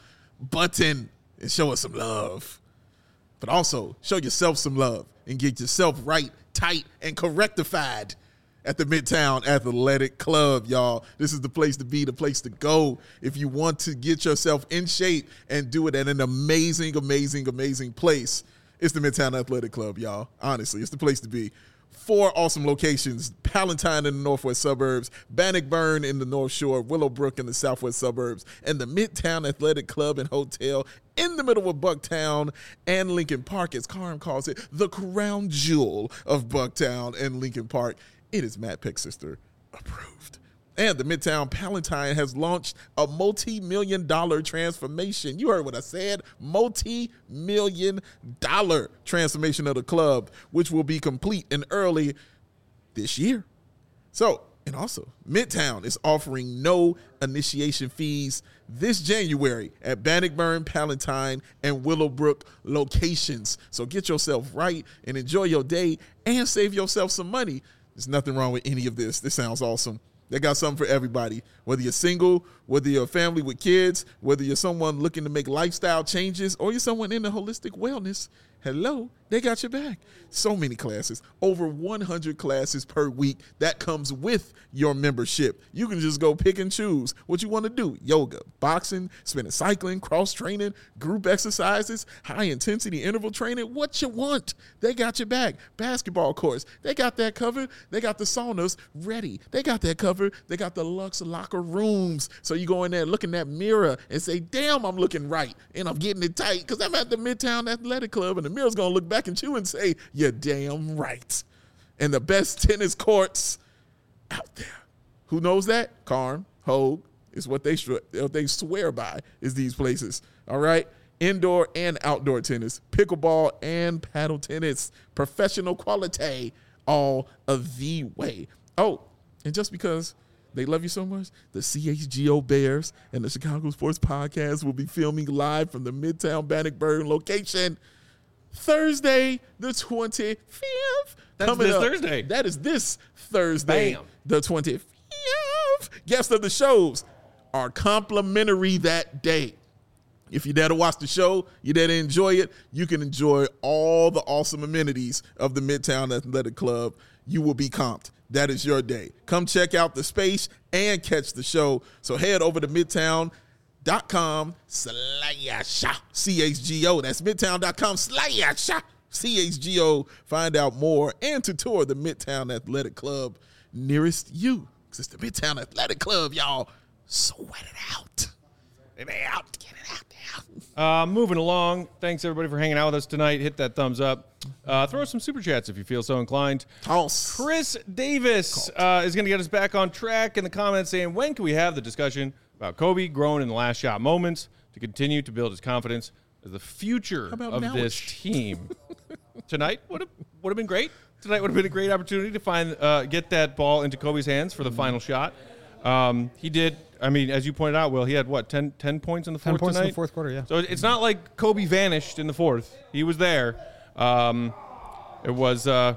B: button and show us some love. But also show yourself some love and get yourself right, tight, and correctified at the Midtown Athletic Club, y'all. This is the place to be, the place to go if you want to get yourself in shape and do it at an amazing, amazing, amazing place. It's the Midtown Athletic Club, y'all. Honestly, it's the place to be. 4 awesome locations: Palatine in the northwest suburbs, Bannockburn in the North Shore, Willowbrook in the southwest suburbs, and the Midtown Athletic Club and Hotel in the middle of Bucktown and Lincoln Park, as Karim calls it, the crown jewel of Bucktown and Lincoln Park. It is Matt Peck-Sister approved. And the Midtown Palatine has launched a multi-million-dollar transformation. You heard what I said, multi-million-dollar transformation of the club, which will be complete in early this year. So, and also, Midtown is offering no initiation fees this January at Bannockburn, Palatine, and Willowbrook locations. So get yourself right and enjoy your day and save yourself some money. There's nothing wrong with any of this. This sounds awesome. They got something for everybody, whether you're single, whether you're a family with kids, whether you're someone looking to make lifestyle changes, or you're someone into holistic wellness. Hello, they got your back. So many classes, over 100 classes per week. That comes with your membership. You can just go pick and choose what you want to do. Yoga, boxing, spinning, cycling, cross training, group exercises, high intensity interval training, what you want. They got your back. Basketball courts, they got that covered. They got the saunas ready. They got that covered. They got the luxe locker rooms. So you go in there, look in that mirror and say, damn, I'm looking right. And I'm getting it tight because I'm at the Midtown Athletic Club, and the mirror's going to look back at you and say, you're damn right. And the best tennis courts out there. Who knows that? Karn, Hogue is what they swear by is these places. All right? Indoor and outdoor tennis, pickleball and paddle tennis, professional quality, all of the way. Oh, and just because they love you so much, the CHGO Bears and the Chicago Sports Podcast will be filming live from the Midtown Bannockburn location Thursday, the 25th.
A: That's this Thursday.
B: That is this Thursday,
A: Bam.
B: the 25th. Guests of the shows are complimentary that day. If you're there to watch the show, you're there to enjoy it, you can enjoy all the awesome amenities of the Midtown Athletic Club. You will be comped. That is your day. Come check out the space and catch the show. So head over to midtown.com/CHGO. That's midtown.com/CHGO. Find out more and to tour the Midtown Athletic Club nearest you. Because it's the Midtown Athletic Club, y'all. Sweat it out. Get it out.
A: Moving along. Thanks, everybody, for hanging out with us tonight. Hit that thumbs up. Throw some super chats if you feel so inclined.
B: Toss.
A: Chris Davis is going to get us back on track in the comments saying, when can we have the discussion about Kobe growing in the last shot moments to continue to build his confidence as the future of this team? Tonight would have been great. Tonight would have been a great opportunity to get that ball into Kobe's hands for the final shot. He did. I mean, as you pointed out, Will, he had, 10 points in the fourth
C: 10 points
A: tonight?
C: in the fourth quarter, yeah.
A: So it's not like Kobe vanished in the fourth. He was there. It was, I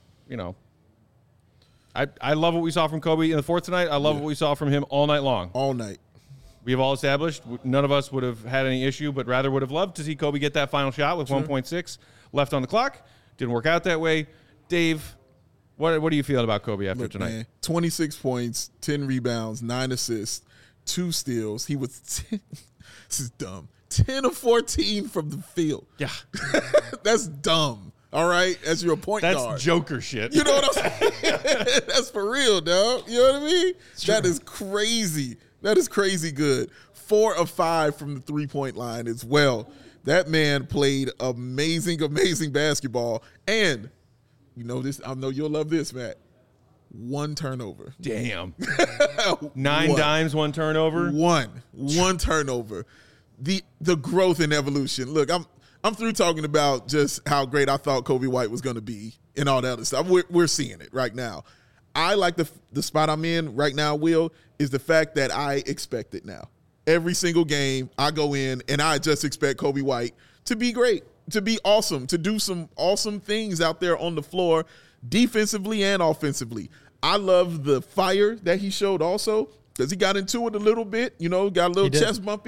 A: love what we saw from Kobe in the fourth tonight. I love what we saw from him all night long.
B: All night.
A: We have all established none of us would have had any issue, but rather would have loved to see Kobe get that final shot with 1.6 left on the clock. Didn't work out that way. Dave, what are you feeling about Kobe after tonight?
B: Man, 26 points, 10 rebounds, 9 assists, 2 steals. He was this is dumb. 10 of 14 from the field.
A: Yeah.
B: That's dumb. All right, as your point guard.
A: That's Joker shit.
B: You know what I'm saying? That's for real, dog. You know what I mean? That is crazy. That is crazy good. 4 of 5 from the three-point line as well. That man played amazing, amazing basketball. And you know this, I know you'll love this, Matt. 1 turnover.
A: Damn. 9 dimes, 1 turnover.
B: One turnover. The growth and evolution. Look, I'm through talking about just how great I thought Kobe White was going to be and all that other stuff. We're seeing it right now. I like the spot I'm in right now, Will, is the fact that I expect it now. Every single game I go in and I just expect Kobe White to be great, to be awesome, to do some awesome things out there on the floor, defensively and offensively. I love the fire that he showed also because he got into it a little bit, got a little chest bumpy.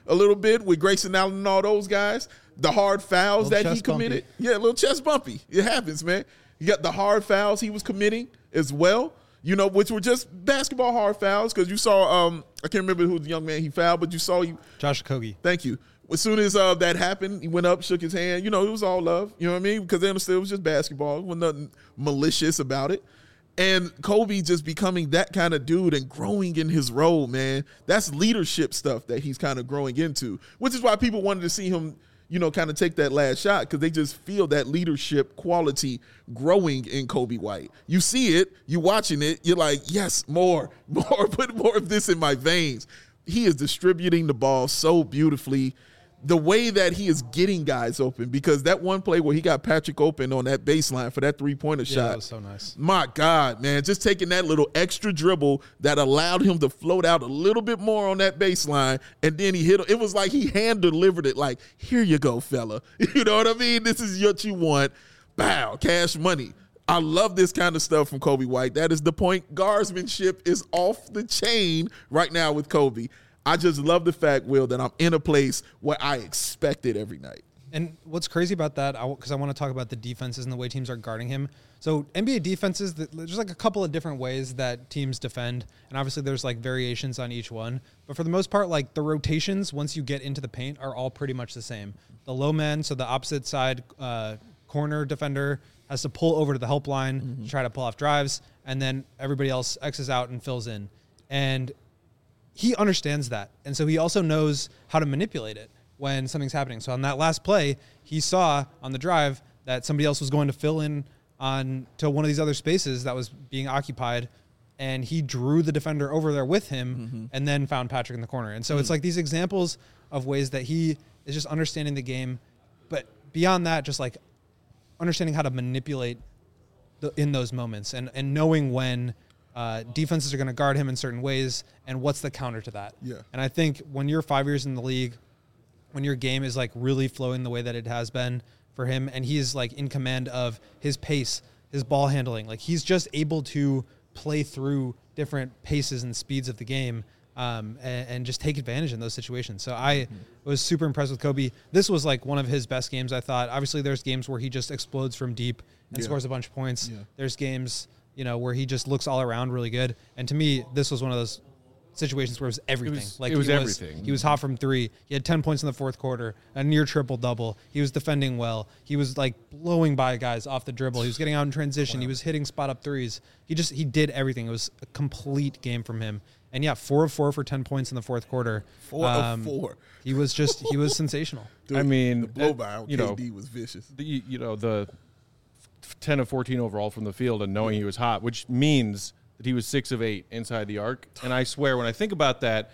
B: a little bit with Grayson Allen and all those guys. The hard fouls that he committed.
C: Bumpy.
B: Yeah, a little chest bumpy. It happens, man. You got the hard fouls he was committing as well, which were just basketball hard fouls because you saw, I can't remember who the young man he fouled, but you saw
C: Josh Okogie.
B: Thank you. As soon as that happened, he went up, shook his hand. It was all love. You know what I mean? Because they understood it was just basketball. There was nothing malicious about it. And Kobe just becoming that kind of dude and growing in his role, man. That's leadership stuff that he's kind of growing into, which is why people wanted to see him, kind of take that last shot because they just feel that leadership quality growing in Kobe White. You see it, you watching it, you're like, yes, more, put more of this in my veins. He is distributing the ball so beautifully. The way that he is getting guys open, because that one play where he got Patrick open on that baseline for that three-pointer shot.
C: That was so nice.
B: My God, man, just taking that little extra dribble that allowed him to float out a little bit more on that baseline, and then he hit it. It was like he hand-delivered it like, here you go, fella. You know what I mean? This is what you want. Bow, cash money. I love this kind of stuff from Kobe White. That is the point. Guardsmanship is off the chain right now with Kobe. I just love the fact, Will, that I'm in a place where I expect it every night.
C: And what's crazy about that, because I want to talk about the defenses and the way teams are guarding him. So NBA defenses, there's like a couple of different ways that teams defend. And obviously there's like variations on each one. But for the most part, like the rotations, once you get into the paint, are all pretty much the same. The low man, so the opposite side corner defender has to pull over to the help line to try to pull off drives. And then everybody else X's out and fills in. And he understands that. And so he also knows how to manipulate it when something's happening. So on that last play, he saw on the drive that somebody else was going to fill in on to one of these other spaces that was being occupied, and he drew the defender over there with him and then found Patrick in the corner. And so it's like these examples of ways that he is just understanding the game, but beyond that, just like understanding how to manipulate in those moments and knowing when defenses are going to guard him in certain ways and what's the counter to that.
B: Yeah.
C: And I think when you're 5 years in the league, when your game is like really flowing the way that it has been for him, and he's like in command of his pace, his ball handling, like he's just able to play through different paces and speeds of the game and just take advantage in those situations. So I was super impressed with Kobe. This was like one of his best games, I thought. Obviously there's games where he just explodes from deep and scores a bunch of points. Yeah. There's games, where he just looks all around really good. And to me, this was one of those situations where it was everything.
A: It was everything.
C: He was hot from three. He had 10 points in the fourth quarter, a near triple-double. He was defending well. He was, like, blowing by guys off the dribble. He was getting out in transition. Wow. He was hitting spot-up threes. He did everything. It was a complete game from him. And, 4 of 4 for 10 points in the fourth quarter.
B: 4 of 4.
C: He was sensational.
B: Dude,
A: I mean,
B: the blow-by on KD was vicious.
A: The 10 of 14 overall from the field and knowing he was hot, which means that he was 6 of 8 inside the arc. And I swear, when I think about that,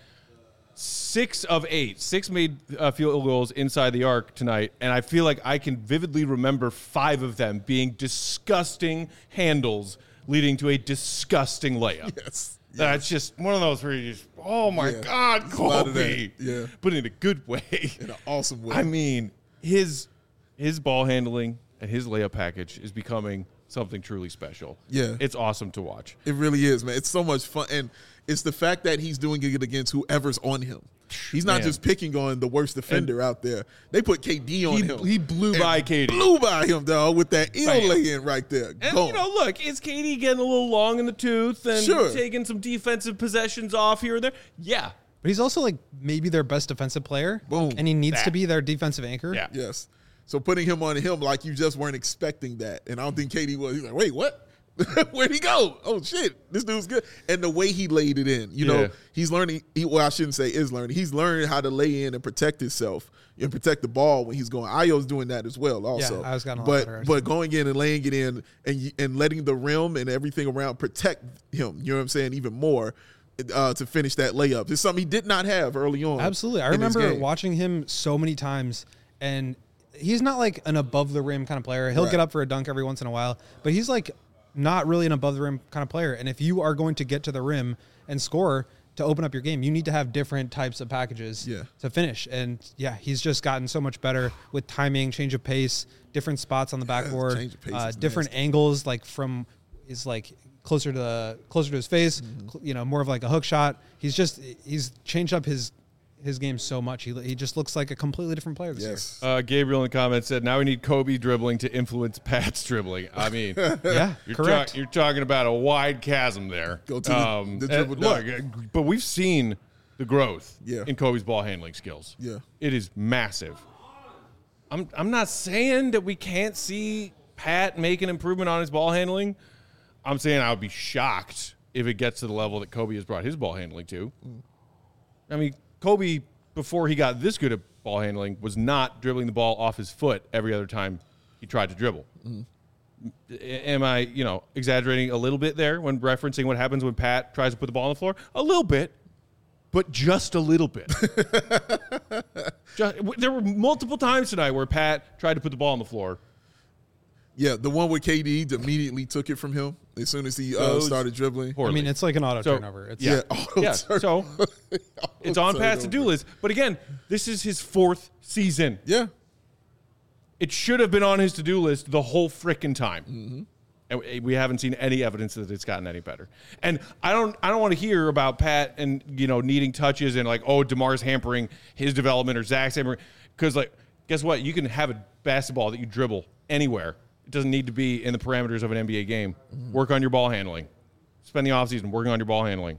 A: 6 of 8, 6 made field goals inside the arc tonight, and I feel like I can vividly remember 5 of them being disgusting handles leading to a disgusting layup.
B: Yes.
A: That's just one of those where you just, oh my God, Kobe.
B: Yeah.
A: But in a good way.
B: In an awesome way.
A: I mean, his ball handling and his layup package is becoming something truly special.
B: Yeah.
A: It's awesome to watch.
B: It really is, man. It's so much fun. And it's the fact that he's doing it against whoever's on him. He's not just picking on the worst defender out there. They put KD on him.
A: He blew by KD.
B: Blew by him, dog, with that lay-in right there.
A: And, look, is KD getting a little long in the tooth and taking some defensive possessions off here and there? Yeah.
C: But he's also, like, maybe their best defensive player.
B: Boom.
C: And he needs to be their defensive anchor.
A: Yeah.
B: Yes. So putting him on him like you just weren't expecting that. And I don't think KD was. He's like, wait, what? Where'd he go? Oh, shit. This dude's good. And the way he laid it in, he's learning. I shouldn't say is learning. He's learning how to lay in and protect himself and protect the ball when he's going. Ayo's doing that as well also.
C: Yeah, I was gotten a lot better.
B: But going in and laying it in and letting the rim and everything around protect him, you know what I'm saying, even more to finish that layup. It's something he did not have early on.
C: Absolutely. I remember watching him so many times, and he's not like an above the rim kind of player. He'll get up for a dunk every once in a while, but he's like not really an above the rim kind of player. And if you are going to get to the rim and score to open up your game, you need to have different types of packages to finish. And he's just gotten so much better with timing, change of pace, different spots on the backboard, different angles, like from is like closer to his face, more of like a hook shot. He's changed up his his game so much. He just looks like a completely different player this year.
A: Gabriel in the comments said, now we need Kobe dribbling to influence Pat's dribbling. I mean,
C: Yeah, correct.
A: You're talking about a wide chasm there.
B: Go to the dribble
A: look,
B: down.
A: but we've seen the growth
B: Yeah.
A: in Kobe's ball handling skills.
B: Yeah.
A: It is massive. I'm not saying that we can't see Pat make an improvement on his ball handling. I'm saying I would be shocked if it gets to the level that Kobe has brought his ball handling to. I mean, Kobe, before he got this good at ball handling, was not dribbling the ball off his foot every other time he tried to dribble. Am I, exaggerating a little bit there when referencing what happens when Pat tries to put the ball on the floor? A little bit, but just a little bit. There were multiple times tonight where Pat tried to put the ball on the floor.
B: Yeah, the one where KD immediately took it from him as soon as he started dribbling.
A: Poorly.
C: I mean, it's like an auto turnover. It's,
A: So it's on Pat's to-do list. But again, this is his 4th season.
B: Yeah.
A: It should have been on his to-do list the whole frickin' time. And we haven't seen any evidence that it's gotten any better. And I don't want to hear about Pat and, needing touches and like, oh, DeMar's hampering his development or Zach's hampering. Because, guess what? You can have a basketball that you dribble anywhere. It doesn't need to be in the parameters of an NBA game. Work on your ball handling. Spend the offseason working on your ball handling.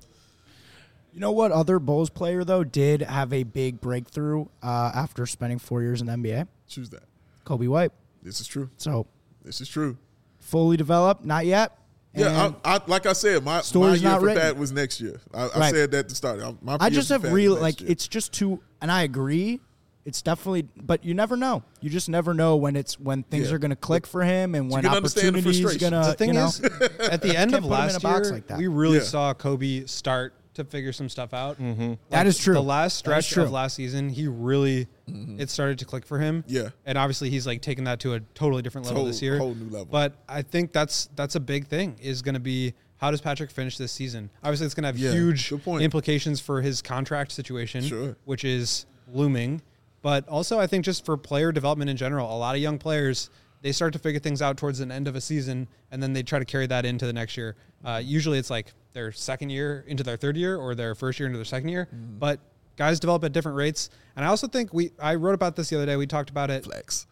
D: You know what other Bulls player, though, did have a big breakthrough after spending 4 years in the NBA?
B: Choose that.
D: Kobe White.
B: This is true.
D: So
B: This is true.
D: fully developed, not yet.
B: Yeah,
D: And
B: I like I said, my
D: story's
B: year
D: not
B: for
D: written.
B: Pat was next year. I
D: Right.
B: said that at the start.
D: I just have real
B: like
D: it's just too, and I agree. It's definitely, but you never know. You just never know when things
B: Yeah.
D: are going to click for him and when
B: can understand the
D: opportunities
B: frustration.
D: going to.
C: The thing is, at the end
D: Can't
C: of
D: put him in a
C: last
D: box
C: year,
D: like that.
C: we really
B: Yeah.
C: saw Kobe start to figure some stuff out.
D: That is true.
C: The last
D: That is
C: stretch
D: true.
C: of last season, he really it started to click for him.
B: Yeah.
C: And obviously he's taken that to a totally different level this year.
B: Whole new level.
C: But I think that's a big thing is going to be how does Patrick finish this season? Obviously it's going to have
B: Yeah,
C: huge
B: good point.
C: implications for his contract situation,
B: Sure.
C: which is looming. But also I think just for player development in general, a lot of young players, they start to figure things out towards the end of a season, and then they try to carry that into the next year. Usually it's their second year into their third year or their first year into their second year. But guys develop at different rates. And I also think I wrote about this the other day. We talked about it
B: Flex.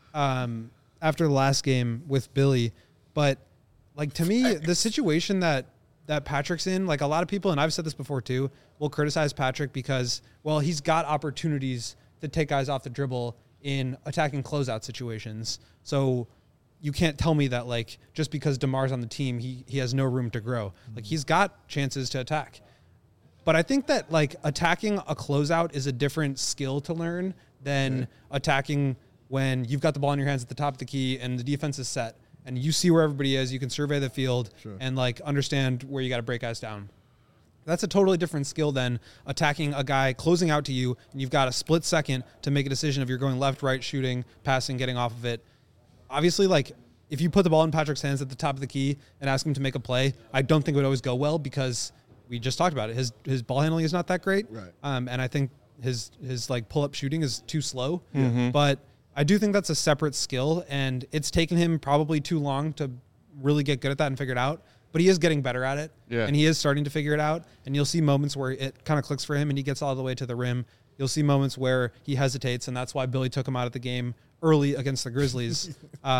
C: after the last game with Billy. But to me, the situation that Patrick's in, a lot of people, and I've said this before too, will criticize Patrick because, well, he's got opportunities to take guys off the dribble in attacking closeout situations. So you can't tell me that just because DeMar's on the team, he has no room to grow. He's got chances to attack. But I think that attacking a closeout is a different skill to learn than attacking when you've got the ball in your hands at the top of the key and the defense is set and you see where everybody is, you can survey the field and understand where you got to break guys down. That's a totally different skill than attacking a guy closing out to you, and you've got a split second to make a decision if you're going left, right, shooting, passing, getting off of it. Obviously, if you put the ball in Patrick's hands at the top of the key and ask him to make a play, I don't think it would always go well because we just talked about it. His ball handling is not that great,
B: Right.
C: And I think his pull-up shooting is too slow. But I do think that's a separate skill, and it's taken him probably too long to really get good at that and figure it out. But he is getting better at it, and he is starting to figure it out. And you'll see moments where it kind of clicks for him and he gets all the way to the rim. You'll see moments where he hesitates, and that's why Billy took him out of the game early against the Grizzlies.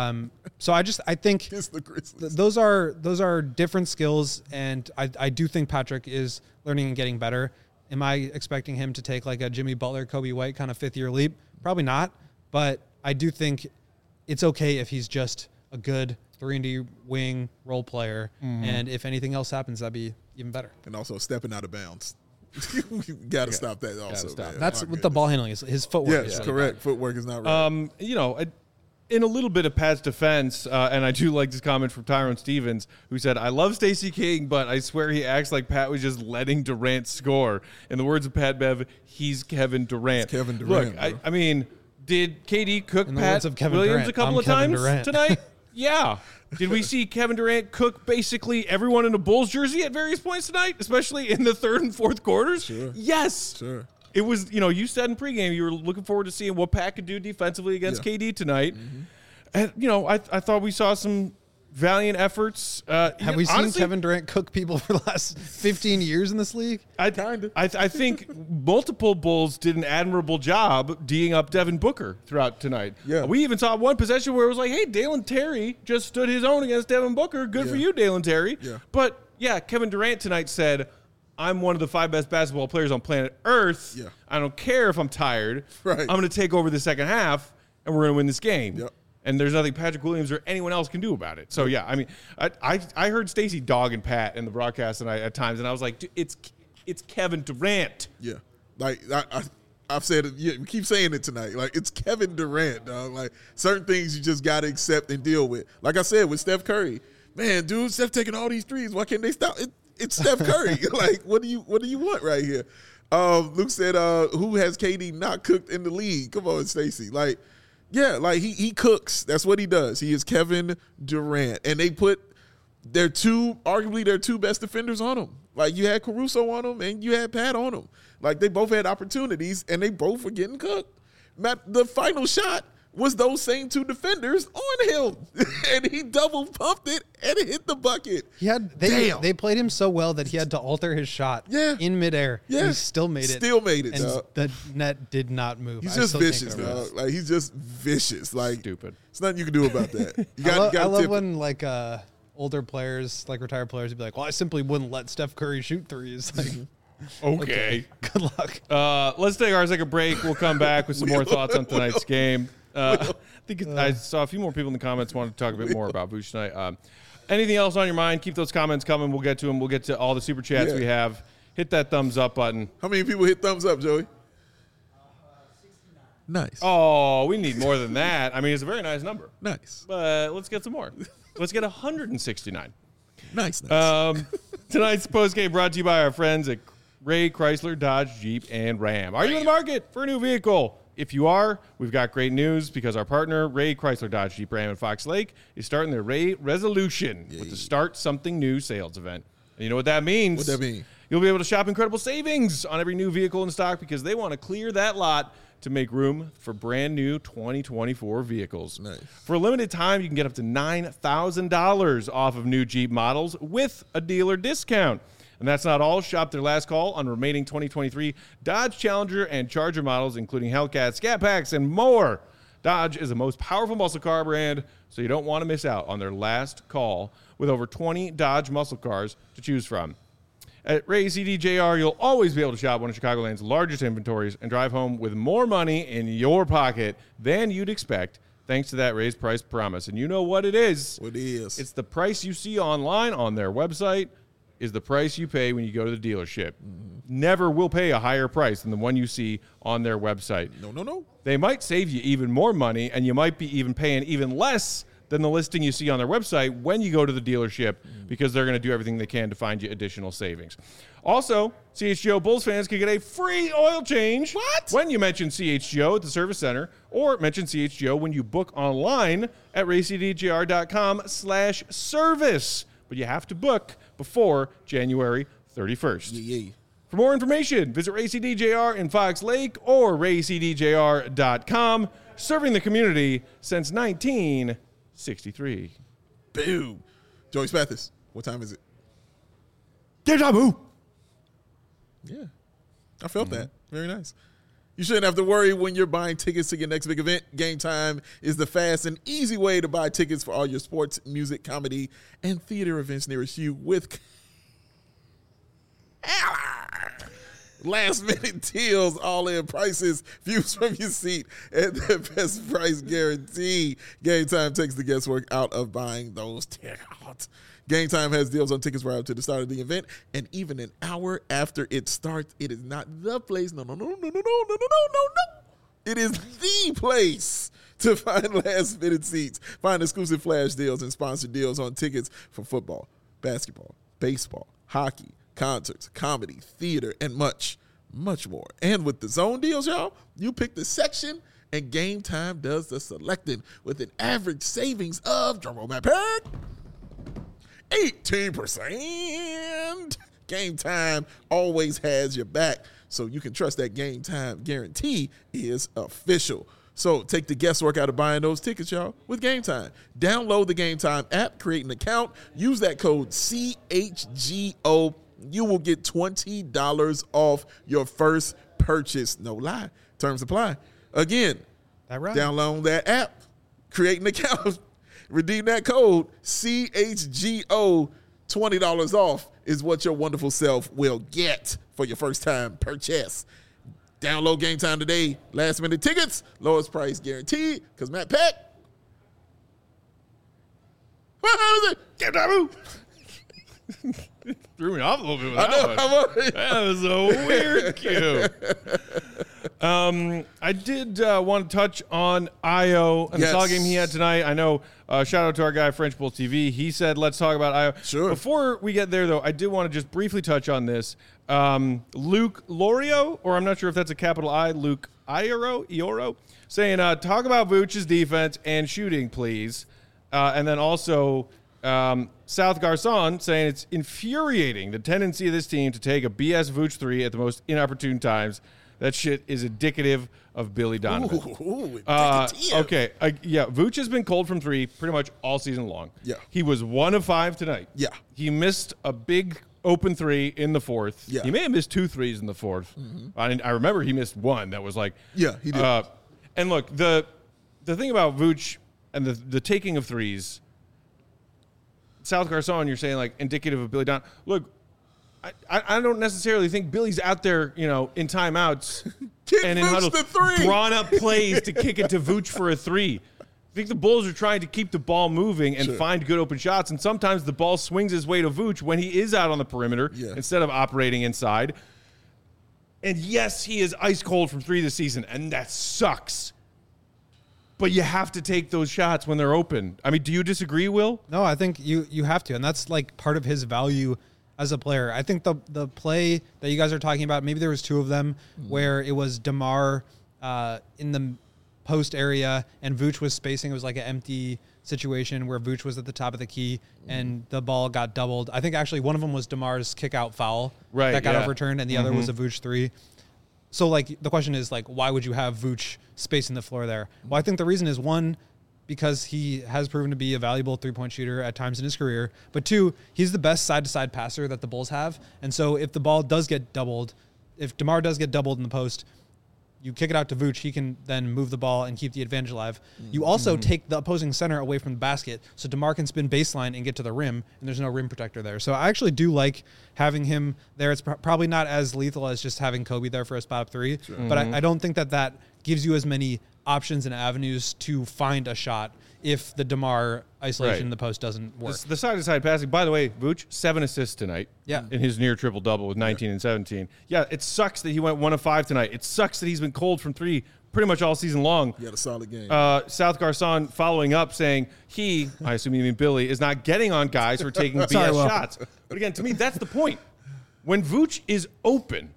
C: So I think
B: Against the Grizzlies.
C: those are different skills, and I do think Patrick is learning and getting better. Am I expecting him to take a Jimmy Butler, Kobe White kind of fifth-year leap? Probably not, but I do think it's okay if he's just a good 3-and-D wing role player, and if anything else happens, that'd be even better.
B: And also stepping out of bounds. We got to stop that also.
A: stop.
B: Man.
C: That's
B: My
C: what the ball handling is. His footwork
B: Yes,
C: is really
B: correct.
C: bad.
B: Footwork is not right.
A: In a little bit of Pat's defense, and I do like this comment from Tyrone Stevens, who said, I love Stacey King, but I swear he acts like Pat was just letting Durant score. In the words of Pat Bev, he's Kevin Durant.
B: It's Kevin Durant,
A: Look,
B: bro.
A: I mean, did KD cook
C: In the
A: Pat
C: words of Kevin
A: Williams
C: Durant,
A: a couple
C: I'm
A: of
C: Kevin
A: times
C: Durant.
A: tonight? Yeah. Did we see Kevin Durant cook basically everyone in a Bulls jersey at various points tonight, especially in the third and fourth quarters?
B: Sure.
A: Yes.
B: Sure.
A: It was, you said in pregame you were looking forward to seeing what Pat could do defensively against
B: Yeah.
A: KD tonight. And, I thought we saw some valiant efforts.
C: Have we seen
A: honestly,
C: Kevin Durant cook people for the last 15 years in this league?
A: I think multiple Bulls did an admirable job D'ing up Devin Booker throughout tonight.
B: Yeah.
A: We even saw one possession where it was like, hey, Dalen Terry just stood his own against Devin Booker. Good for you, Dalen Terry.
B: Yeah.
A: But, yeah, Kevin Durant tonight said, I'm one of the 5 best basketball players on planet Earth.
B: Yeah.
A: I don't care if I'm tired.
B: Right.
A: I'm going to take over the second half, and we're going to win this game.
B: Yep.
A: And there's nothing Patrick Williams or anyone else can do about it. So, yeah, I mean, I heard Stacey dogging Pat in the broadcast tonight at times, and I was like, dude, it's Kevin Durant.
B: Yeah. Like, I've said it. Yeah, we keep saying it tonight. Like, it's Kevin Durant, dog. Like, certain things you just got to accept and deal with. Like I said, with Steph Curry. Man, dude, Steph taking all these threes. Why can't they stop? It's Steph Curry. Like, what do you want right here? Luke said, who has KD not cooked in the league? Come on, Stacey. Like, yeah, like he cooks. That's what he does. He is Kevin Durant. And they put arguably their two best defenders on him. Like, you had Caruso on him and you had Pat on him. Like, they both had opportunities and they both were getting cooked. The final shot was those same two defenders on him. And he double pumped it and it hit the bucket.
C: They played him so well that he had to alter his shot in midair.
B: Yeah.
C: He still made it.
B: Still made it,
C: and
B: dog.
C: the net did not move.
B: He's just vicious, dog. Like, he's just vicious. Like,
A: Stupid.
B: There's nothing you can do about that.
C: I love when, like, older players, like retired players, would be like, well, I simply wouldn't let Steph Curry shoot threes. Like,
A: Okay.
C: good luck.
A: Let's take our second break. We'll come back with some more thoughts on tonight's game. I think I saw a few more people in the comments wanted to talk a bit more about Vooch tonight. Anything else on your mind? Keep those comments coming. We'll get to them. We'll get to all the super chats we have. Hit that thumbs up button.
B: How many people hit thumbs up, Joey? 69. Nice.
A: Oh, we need more than that. I mean, it's a very nice number.
B: Nice.
A: But let's get some more. Let's get 169.
B: Nice.
A: Tonight's postgame brought to you by our friends at Ray Chrysler, Dodge, Jeep, and Ram. Are you in the market for a new vehicle? If you are, we've got great news because our partner, Ray Chrysler, Dodge, Jeep, Ram, and Fox Lake, is starting their Ray Resolution with the Start Something New sales event. And you know what that means?
B: What that mean?
A: You'll be able to shop incredible savings on every new vehicle in stock because they want to clear that lot to make room for brand new 2024 vehicles.
B: Nice.
A: For a limited time, you can get up to $9,000 off of new Jeep models with a dealer discount. And that's not all. Shop their last call on remaining 2023 Dodge Challenger and Charger models, including Hellcat, Scat Packs, and more. Dodge is the most powerful muscle car brand, so you don't want to miss out on their last call with over 20 Dodge muscle cars to choose from. At Ray CDJR, you'll always be able to shop one of Chicagoland's largest inventories and drive home with more money in your pocket than you'd expect, thanks to that raised price promise. And you know what it is.
B: What it is.
A: It's the price you see online on their website is the price you pay when you go to the dealership. Never will pay a higher price than the one you see on their website.
B: No.
A: They might save you even more money, and you might be even paying even less than the listing you see on their website when you go to the dealership because they're going to do everything they can to find you additional savings. Also, CHGO Bulls fans can get a free oil change when you mention CHGO at the service center or mention CHGO when you book online at racdgr.com/service. But you have to book before January 31st.
B: Yeah.
A: For more information, visit RayCDJR in Fox Lake or raycdjr.com, serving the community since 1963.
B: Boom. Joey Spathis, what time is it?
A: Deja vu.
B: Yeah. I felt that. Very nice. You shouldn't have to worry when you're buying tickets to your next big event. Game Time is the fast and easy way to buy tickets for all your sports, music, comedy, and theater events nearest you with last-minute deals, all-in prices, views from your seat, and the best price guarantee. Game Time takes the guesswork out of buying those tickets. Game Time has deals on tickets right up to the start of the event, and even an hour after it starts. It is not the place. No. It is the place to find last-minute seats. Find exclusive flash deals and sponsored deals on tickets for football, basketball, baseball, hockey, concerts, comedy, theater, and much, much more. And with the zone deals, y'all, you pick the section, and Game Time does the selecting with an average savings of, drumroll back, 18%. Game Time always has your back, so you can trust that Game Time guarantee is official. So take the guesswork out of buying those tickets, y'all, with Game Time. Download the Game Time app, create an account, use that code CHGO. You will get $20 off your first purchase. No lie. Terms apply. Again, download that app, create an account, redeem that code CHGO. $20 off is what your wonderful self will get for your first time purchase. Download Game Time today. Last minute tickets, lowest price guaranteed. Because Matt Peck. What was it? Game Time.
A: Threw me off a little bit with that one. That was a weird cue. I did want to touch on Io and the solid game he had tonight. I know, shout out to our guy, French Bull TV. He said, let's talk about Io.
B: Sure.
A: Before we get there, though, I did want to just briefly touch on this. Luke Lorio, or I'm not sure if that's a capital I, Luke Ioro, saying, talk about Vooch's defense and shooting, please. And then also South Garcon saying it's infuriating the tendency of this team to take a BS Vooch 3 at the most inopportune times. That shit is indicative of Billy Donovan. Okay. Yeah, Vooch has been cold from 3 pretty much all season long.
B: Yeah.
A: He was 1 of 5 tonight.
B: Yeah.
A: He missed a big open 3 in the 4th.
B: Yeah.
A: He may have missed 2 threes in the 4th. I remember he missed 1 that was like.
B: Yeah, he did.
A: And look, the thing about Vooch and the taking of threes, South Garcon, you're saying like indicative of Billy Donovan. Look, I don't necessarily think Billy's out there, in timeouts and in huddle, drawn up plays to kick it to Vooch for a 3. I think the Bulls are trying to keep the ball moving and find good open shots, and sometimes the ball swings his way to Vooch when he is out on the perimeter instead of operating inside. And yes, he is ice cold from 3 this season, and that sucks. But you have to take those shots when they're open. I mean, do you disagree, Will?
C: No, I think you have to, and that's like part of his value as a player. I think the play that you guys are talking about, maybe there was 2 of them where it was DeMar in the post area and Vooch was spacing. It was like an empty situation where Vooch was at the top of the key and the ball got doubled. I think actually one of them was DeMar's kick out foul that got overturned, and the other was a Vooch 3. So, like, the question is, like, why would you have Vooch spacing the floor there? Well, I think the reason is, 1, because he has proven to be a valuable three-point shooter at times in his career. But 2, he's the best side-to-side passer that the Bulls have. And so if the ball does get doubled, if DeMar does get doubled in the post, you kick it out to Vooch, he can then move the ball and keep the advantage alive. You also take the opposing center away from the basket, so DeMar can spin baseline and get to the rim, and there's no rim protector there. So I actually do like having him there. It's probably not as lethal as just having Kobe there for a spot up 3, but I don't think that gives you as many options and avenues to find a shot if the DeMar isolation in the post doesn't work.
A: The side-to-side passing, by the way, Vooch, 7 assists tonight in his near triple-double with 19 and 17. Yeah, it sucks that he went 1 of 5 tonight. It sucks that he's been cold from 3 pretty much all season long.
B: He had a solid game.
A: South Garcon following up saying I assume you mean Billy, is not getting on guys for taking BS shots. But again, to me, that's the point. When Vooch is open,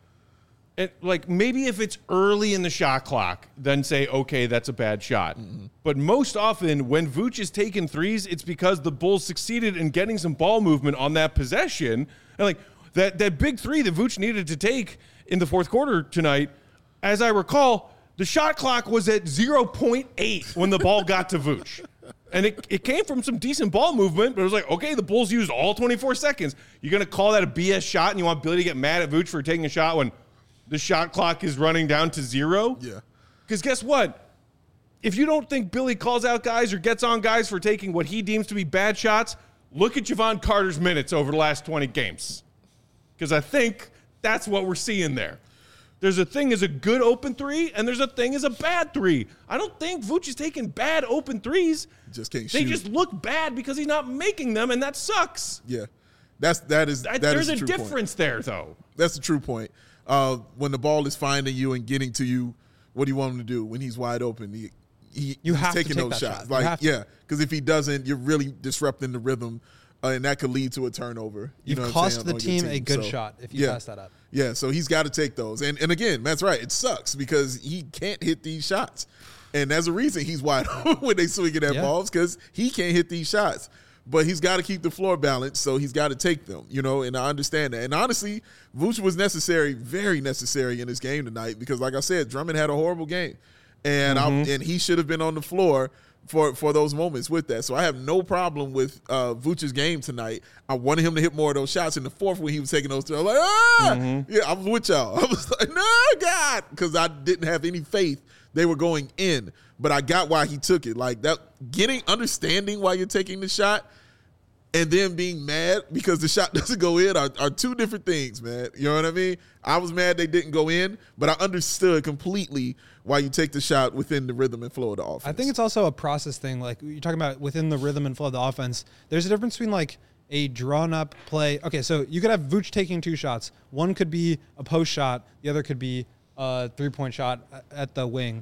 A: maybe if it's early in the shot clock, then say, okay, that's a bad shot. But most often when Vooch is taking threes, it's because the Bulls succeeded in getting some ball movement on that possession. And that big 3 that Vooch needed to take in the 4th quarter tonight, as I recall, the shot clock was at 0.8 when the ball got to Vooch. And it came from some decent ball movement, but it was like, okay, the Bulls used all 24 seconds. You're going to call that a BS shot and you want Billy to get mad at Vooch for taking a shot when the shot clock is running down to 0?
B: Yeah.
A: Because guess what? If you don't think Billy calls out guys or gets on guys for taking what he deems to be bad shots, look at Javon Carter's minutes over the last 20 games. Because I think that's what we're seeing there. There's a thing as a good open 3, and there's a thing as a bad 3. I don't think Vooch is taking bad open 3s.
B: Just can't
A: They
B: shoot.
A: just look bad because he's not making them, and that sucks.
B: Yeah. There's
A: a difference there, though.
B: That's the true point. When the ball is finding you and getting to you, what do you want him to do when he's wide open? He's taking those shots. Because if he doesn't, you're really disrupting the rhythm, and that could lead to a turnover.
C: You've cost the team a good shot if you pass that up.
B: Yeah, so he's got to take those. And again, Matt's right. It sucks because he can't hit these shots. And there's a reason he's wide open when they swing at balls, because he can't hit these shots. But he's got to keep the floor balanced, so he's got to take them, and I understand that. And honestly, Vooch was necessary, very necessary in this game tonight because, like I said, Drummond had a horrible game. and and he should have been on the floor for those moments with that. So I have no problem with Vooch's game tonight. I wanted him to hit more of those shots in the fourth when he was taking those. I was like, yeah, I was with y'all. I was like, no, God, because I didn't have any faith they were going in. But I got why he took it. Like that, understanding why you're taking the shot and then being mad because the shot doesn't go in are two different things, man. You know what I mean? I was mad they didn't go in, but I understood completely why you take the shot within the rhythm and flow of the offense.
C: I think it's also a process thing. Like you're talking about within the rhythm and flow of the offense, there's a difference between like a drawn up play. Okay, so you could have Vooch taking two shots. One could be a post shot. The other could be a 3-point shot at the wing.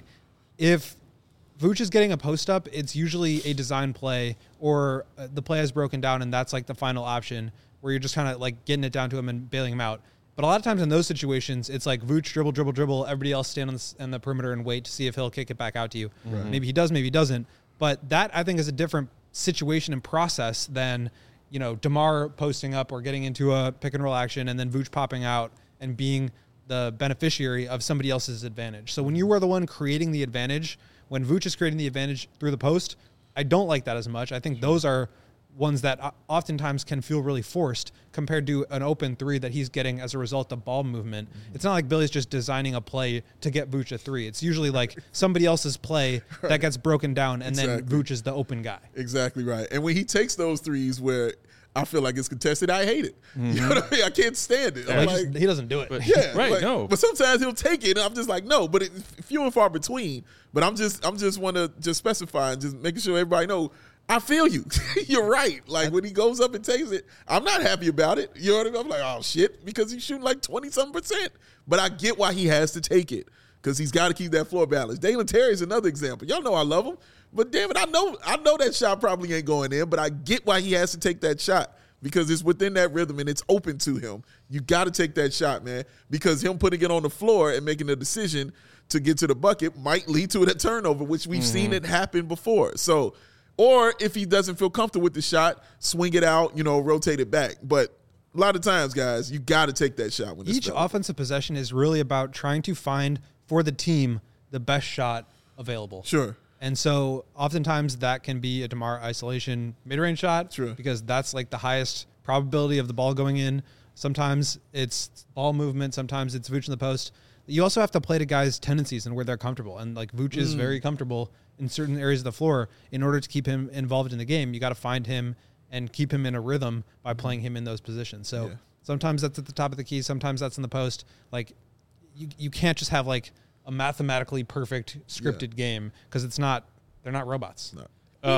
C: If Vooch is getting a post up, it's usually a design play or the play has broken down and that's like the final option where you're just kind of like getting it down to him and bailing him out. But a lot of times in those situations, it's like Vooch dribble. Everybody else stand on the perimeter and wait to see if he'll kick it back out to you. Right. Maybe he does, maybe he doesn't. But that I think is a different situation and process than, you know, DeMar posting up or getting into a pick and roll action and then Vooch popping out and being the beneficiary of somebody else's advantage. So when you were the one creating the advantage, when Vooch is creating the advantage through the post, I don't like that as much. I think those are ones that oftentimes can feel really forced compared to an open three that he's getting as a result of ball movement. It's not like Billy's just designing a play to get Vooch a three. It's usually like somebody else's play that gets broken down and then Vooch is the open guy.
B: Exactly right. And when he takes those threes where I feel like it's contested, I hate it. You know what I mean? I can't stand it.
C: Yeah, he doesn't do it.
A: But,
B: yeah,
A: right,
B: like,
A: no.
B: But sometimes he'll take it, and I'm just like, no. But it's few and far between. But I'm just want to just specify and just making sure everybody know. I feel you. You're right. Like when he goes up and takes it, I'm not happy about it. You know what I mean? I'm like, oh shit, because he's shooting like 20-something%. But I get why he has to take it because he's got to keep that floor balance. Dalen Terry is another example. Y'all know I love him, but damn it, I know that shot probably ain't going in. But I get why he has to take that shot. Because it's within that rhythm and it's open to him. You got to take that shot, man. Because him putting it on the floor and making a decision to get to the bucket might lead to a turnover, which we've seen it happen before. So, or if he doesn't feel comfortable with the shot, swing it out, rotate it back. But a lot of times, guys, you got to take that shot. When
C: each offensive possession is really about trying to find for the team the best shot available.
B: Sure.
C: And so oftentimes that can be a DeMar isolation mid-range shot
B: True.
C: because that's like the highest probability of the ball going in. Sometimes it's ball movement. Sometimes it's Vooch in the post. You also have to play to guys' tendencies and where they're comfortable. And like Vooch is very comfortable in certain areas of the floor. In order to keep him involved in the game, you got to find him and keep him in a rhythm by playing him in those positions. So sometimes that's at the top of the key. Sometimes that's in the post. Like you can't just have like a mathematically perfect scripted game because they're not robots.
B: No.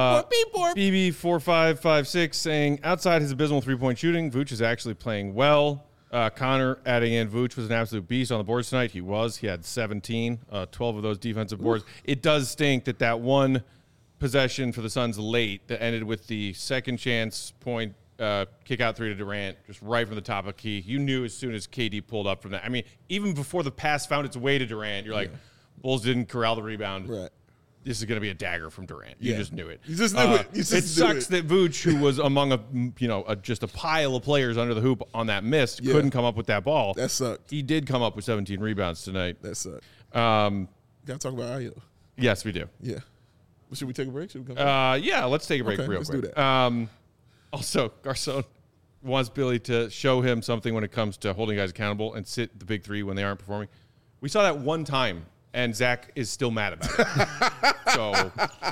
A: BB4556 saying, outside his abysmal three-point shooting, Vooch is actually playing well. Connor adding in, Vooch was an absolute beast on the boards tonight. He was. He had 17, 12 of those defensive boards. It does stink that one possession for the Suns late that ended with the second chance point kick out three to Durant, just right from the top of key. You knew as soon as KD pulled up from that. I mean, even before the pass found its way to Durant, you're like, Bulls didn't corral the rebound.
B: Right.
A: This is going to be a dagger from Durant. You just knew it.
B: You just knew it.
A: It sucks that Vooch, who was among just a pile of players under the hoop on that miss, couldn't come up with that ball.
B: That sucked.
A: He did come up with 17 rebounds tonight.
B: That sucked. Got to talk about Ayo.
A: Yes, we do.
B: Yeah. Well, should we take a break? Should we come back?
A: Yeah, let's take a break real quick.
B: Let's do that.
A: Also, Garcon wants Billy to show him something when it comes to holding guys accountable and sit the big three when they aren't performing. We saw that one time, and Zach is still mad about it. So,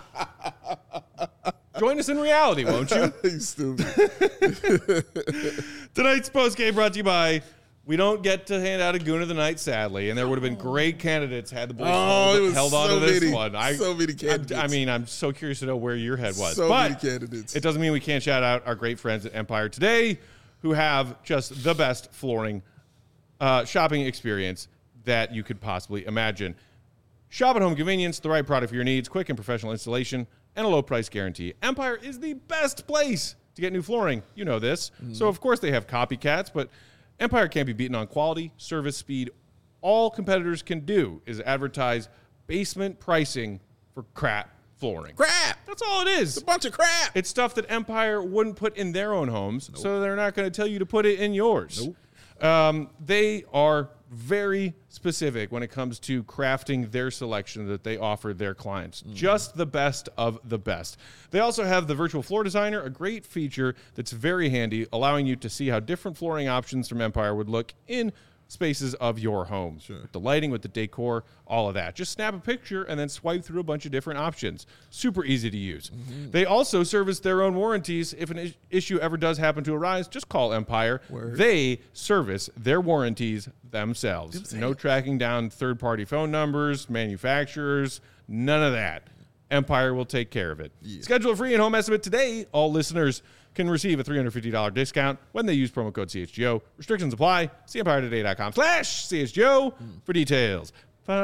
A: join us in reality, won't you?
B: You stupid.
A: Tonight's postgame brought to you by, we don't get to hand out a Goon of the Night, sadly, and there would have been great candidates had the Bulls held on to this one.
B: So many candidates.
A: I mean, I'm so curious to know where your head was.
B: So
A: but
B: many candidates.
A: It doesn't mean we can't shout out our great friends at Empire today who have just the best flooring shopping experience that you could possibly imagine. Shop at home convenience, the right product for your needs, quick and professional installation, and a low price guarantee. Empire is the best place to get new flooring. You know this. So, of course, they have copycats, but Empire can't be beaten on quality, service, speed. All competitors can do is advertise basement pricing for crap flooring.
B: Crap!
A: That's all it is.
B: It's a bunch of crap.
A: It's stuff that Empire wouldn't put in their own homes, so they're not going to tell you to put it in yours.
B: Nope.
A: They are very specific when it comes to crafting their selection that they offer their clients. Just the best of the best. They also have the Virtual Floor Designer, a great feature that's very handy, allowing you to see how different flooring options from Empire would look in spaces of your home. With the lighting, with the decor, all of that. Just snap a picture and then swipe through a bunch of different options. Super easy to use. They also service their own warranties. If an issue ever does happen to arise, just call Empire. They service their warranties themselves. No tracking down third-party phone numbers, manufacturers, none of that. Empire will take care of it. Schedule a free and home estimate today. All listeners can receive a $350 discount when they use promo code CHGO. Restrictions apply. See EmpireToday.com/CHGO for details.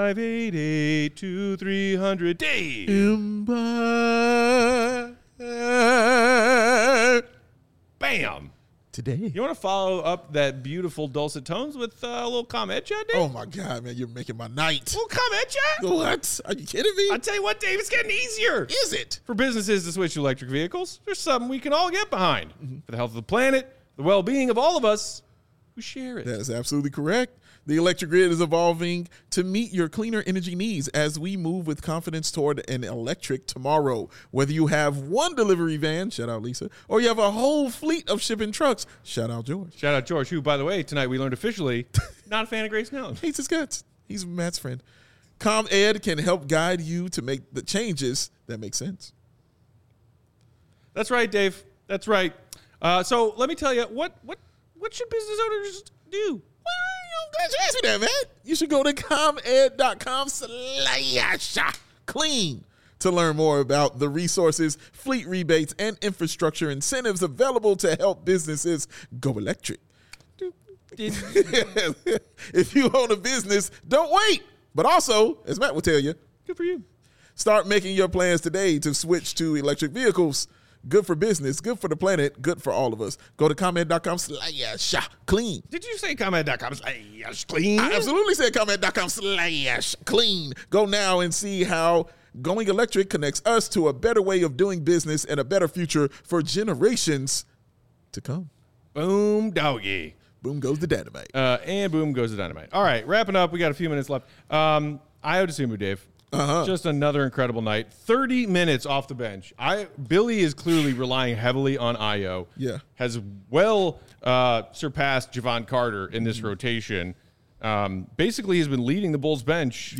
A: 588-2300 Dave.
B: Empire.
A: Bam.
B: Today.
A: You want to follow up that beautiful dulcet tones with a little comment chat, Dave?
B: Oh my God, man, you're making my night.
A: A little comment chat?
B: What? Are you kidding me?
A: I'll tell you what, Dave, it's getting easier.
B: Is it?
A: For businesses to switch to electric vehicles, there's something we can all get behind. For the health of the planet, the well-being of all of us who share it.
B: That is absolutely correct. The electric grid is evolving to meet your cleaner energy needs as we move with confidence toward an electric tomorrow. Whether you have one delivery van, shout out Lisa, or you have a whole fleet of shipping trucks, shout out George.
A: Shout out George, who, by the way, tonight we learned officially, not a fan of Grace Nelson.
B: Hates his guts. He's Matt's friend. ComEd can help guide you to make the changes that make sense.
A: That's right, Dave. That's right. So let me tell you, what should business owners do?
B: I'm glad you asked me that, man. You should go to ComEd.com/clean to learn more about the resources, fleet rebates, and infrastructure incentives available to help businesses go electric. If you own a business, don't wait. But also, as Matt will tell you,
A: Good for you.
B: start making your plans today to switch to electric vehicles. Good for business, good for the planet, good for all of us. Go to ComEd.com/clean.
A: Did you say comment.com/clean?
B: I absolutely said ComEd.com/clean. Go now and see how going electric connects us to a better way of doing business and a better future for generations to come.
A: Boom, doggy.
B: Boom goes the dynamite.
A: And boom goes the dynamite. All right, wrapping up. We got a few minutes left. Ayo Dosunmu, Dave. Just another incredible night. 30 minutes off the bench. Billy is clearly relying heavily on Ayo.
B: Yeah.
A: Has well surpassed Javon Carter in this rotation. Basically, he's been leading the Bulls bench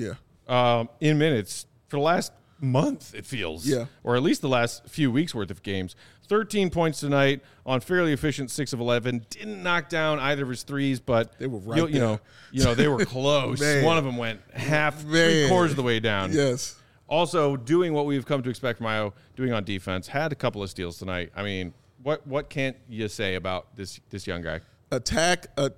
A: in minutes for the last month, it feels.
B: Yeah.
A: Or at least the last few weeks worth of games. 13 points tonight on fairly efficient 6 of 11. Didn't knock down either of his threes, but
B: They were right
A: you know, they were close.
B: Man.
A: One of them went three-quarters of the way down.
B: Yes.
A: Also, doing what we've come to expect from Ayo, doing on defense. Had a couple of steals tonight. I mean, what can't you say about this young guy?
B: Attack.
A: Ooh,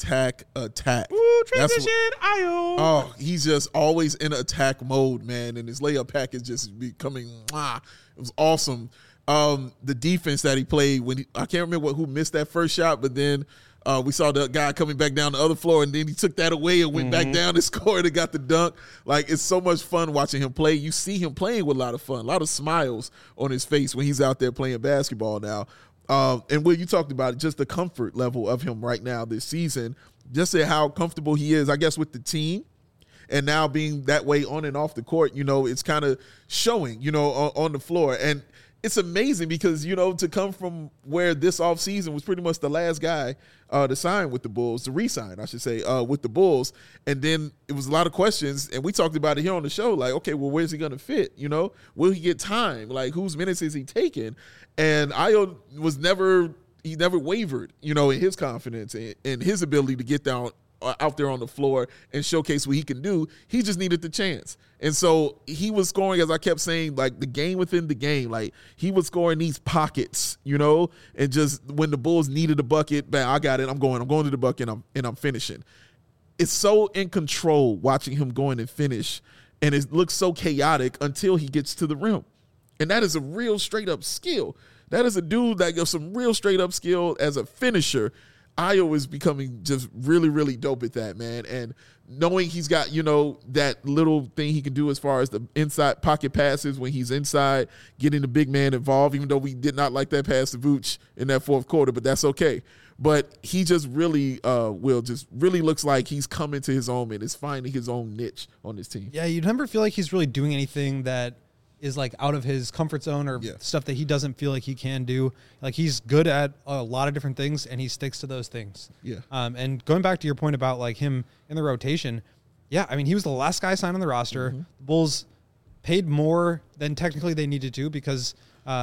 A: transition, Ayo.
B: Oh, he's just always in attack mode, man, and his layup pack is just becoming. It was awesome. The defense that he played I can't remember who missed that first shot, but then we saw the guy coming back down the other floor, and then he took that away and went back down and scored and got the dunk. Like, it's so much fun watching him play. You see him playing with a lot of fun, a lot of smiles on his face when he's out there playing basketball now. And Will, you talked about it, just the comfort level of him right now this season, just how comfortable he is, I guess, with the team. And now being that way on and off the court, it's kind of showing, on the floor. And it's amazing because, to come from where this offseason was pretty much the last guy to sign with the Bulls, to re-sign, I should say, with the Bulls. And then it was a lot of questions, and we talked about it here on the show, like, okay, well, where's he going to fit? Will he get time? Like, whose minutes is he taking? And Ayo never wavered, in his confidence and his ability to get down out there on the floor and showcase what he can do. He just needed the chance. And so he was scoring, as I kept saying, like the game within the game. Like he was scoring these pockets, and just when the Bulls needed a bucket, bam, I got it. I'm going to the bucket and I'm finishing. It's so in control watching him go in and finish. And it looks so chaotic until he gets to the rim. And that is a real straight up skill. That is a dude that got some real straight up skill as a finisher. Ayo is becoming just really, really dope at that, man. And knowing he's got, that little thing he can do as far as the inside pocket passes when he's inside, getting the big man involved, even though we did not like that pass to Vooch in that fourth quarter, but that's okay. But he just really really looks like he's coming to his own and is finding his own niche on this team.
C: Yeah, you never feel like he's really doing anything that is like out of his comfort zone or stuff that he doesn't feel like he can do. Like he's good at a lot of different things and he sticks to those things.
B: Yeah.
C: And going back to your point about like him in the rotation, yeah, I mean, he was the last guy signed on the roster. The Bulls paid more than technically they needed to because,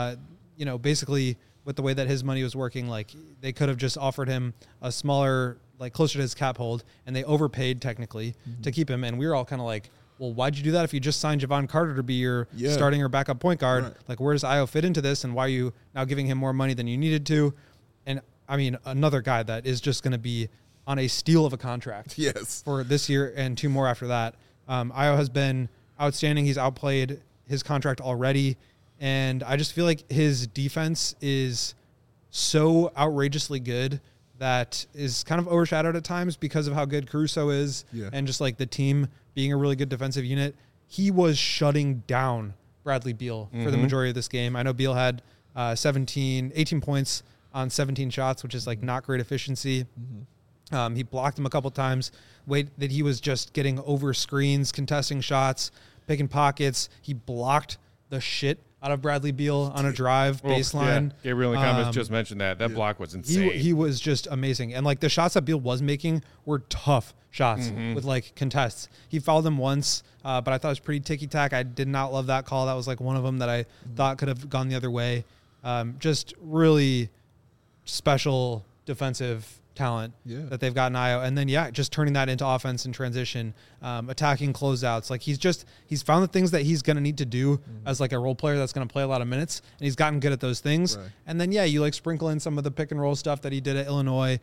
C: basically with the way that his money was working, like they could have just offered him a smaller, like closer to his cap hold, and they overpaid technically to keep him. And we were all kind of like, well, why'd you do that if you just signed Javon Carter to be your starting or backup point guard?
B: Right.
C: Like, where does Ayo fit into this, and why are you now giving him more money than you needed to? And, I mean, another guy that is just going to be on a steal of a contract for this year and 2 more after that. Ayo has been outstanding. He's outplayed his contract already, and I just feel like his defense is so outrageously good that is kind of overshadowed at times because of how good Caruso is and just like the team being a really good defensive unit. He was shutting down Bradley Beal for the majority of this game. I know Beal had 18 points on 17 shots, which is like not great efficiency. He blocked him a couple times. That he was just getting over screens, contesting shots, picking pockets. He blocked the shit out of Bradley Beal on a drive baseline.
A: Yeah. Gabriel in the comments just mentioned that. That block was insane.
C: He was just amazing. And like the shots that Beal was making were tough shots with like contests. He fouled them once, but I thought it was pretty ticky-tack. I did not love that call. That was like one of them that I thought could have gone the other way. Just really special defensive talent that they've got in Ayo. And then, just turning that into offense and transition, attacking closeouts. Like he's found the things that he's going to need to do as like a role player that's going to play a lot of minutes. And he's gotten good at those things. Right. And then, you like sprinkle in some of the pick and roll stuff that he did at Illinois.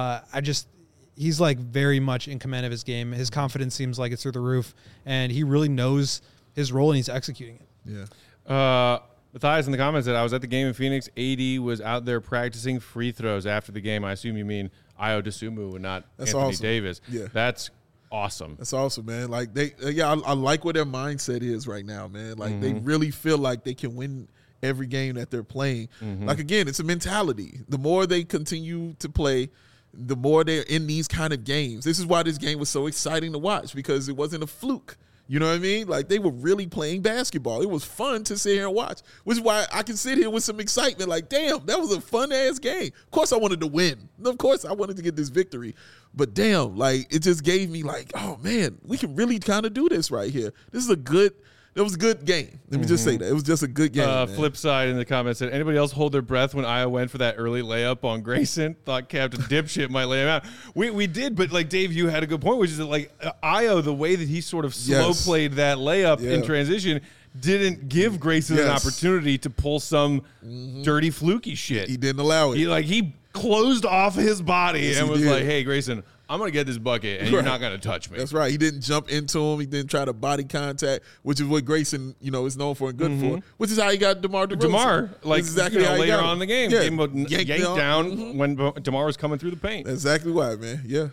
C: He's like very much in command of his game. His confidence seems like it's through the roof and he really knows his role and he's executing it.
A: Matthias in the comments said, I was at the game in Phoenix. AD was out there practicing free throws after the game. I assume you mean Ayo Dosunmu and not Anthony Davis.
B: Yeah.
A: That's awesome.
B: That's awesome, man. Like I like what their mindset is right now, man. Like they really feel like they can win every game that they're playing. Like again, it's a mentality. The more they continue to play, the more they're in these kind of games. This is why this game was so exciting to watch because it wasn't a fluke. You know what I mean? Like, they were really playing basketball. It was fun to sit here and watch, which is why I can sit here with some excitement. Like, damn, that was a fun-ass game. Of course I wanted to win. Of course I wanted to get this victory. But, damn, like, it just gave me, like, oh, man, we can really kind of do this right here. It was a good game. Let me just say that. It was just a good game.
A: Flip side in the comments said, anybody else hold their breath when Ayo went for that early layup on Grayson? Thought Captain Dipshit might lay him out. We did, but like Dave, you had a good point, which is that like Ayo, the way that he sort of slow played that layup in transition didn't give Grayson an opportunity to pull some dirty fluky shit.
B: He didn't allow it.
A: He closed off his body and was like, hey, Grayson, I'm going to get this bucket, and you're not going to touch me.
B: That's right. He didn't jump into him. He didn't try to body contact, which is what Grayson, is known for and good for, which is how he got DeMar DeRozan.
A: DeMar, like,
B: exactly how
A: later on in the game, gave him a yank down when DeMar was coming through the paint.
B: That's exactly why, man. Yeah.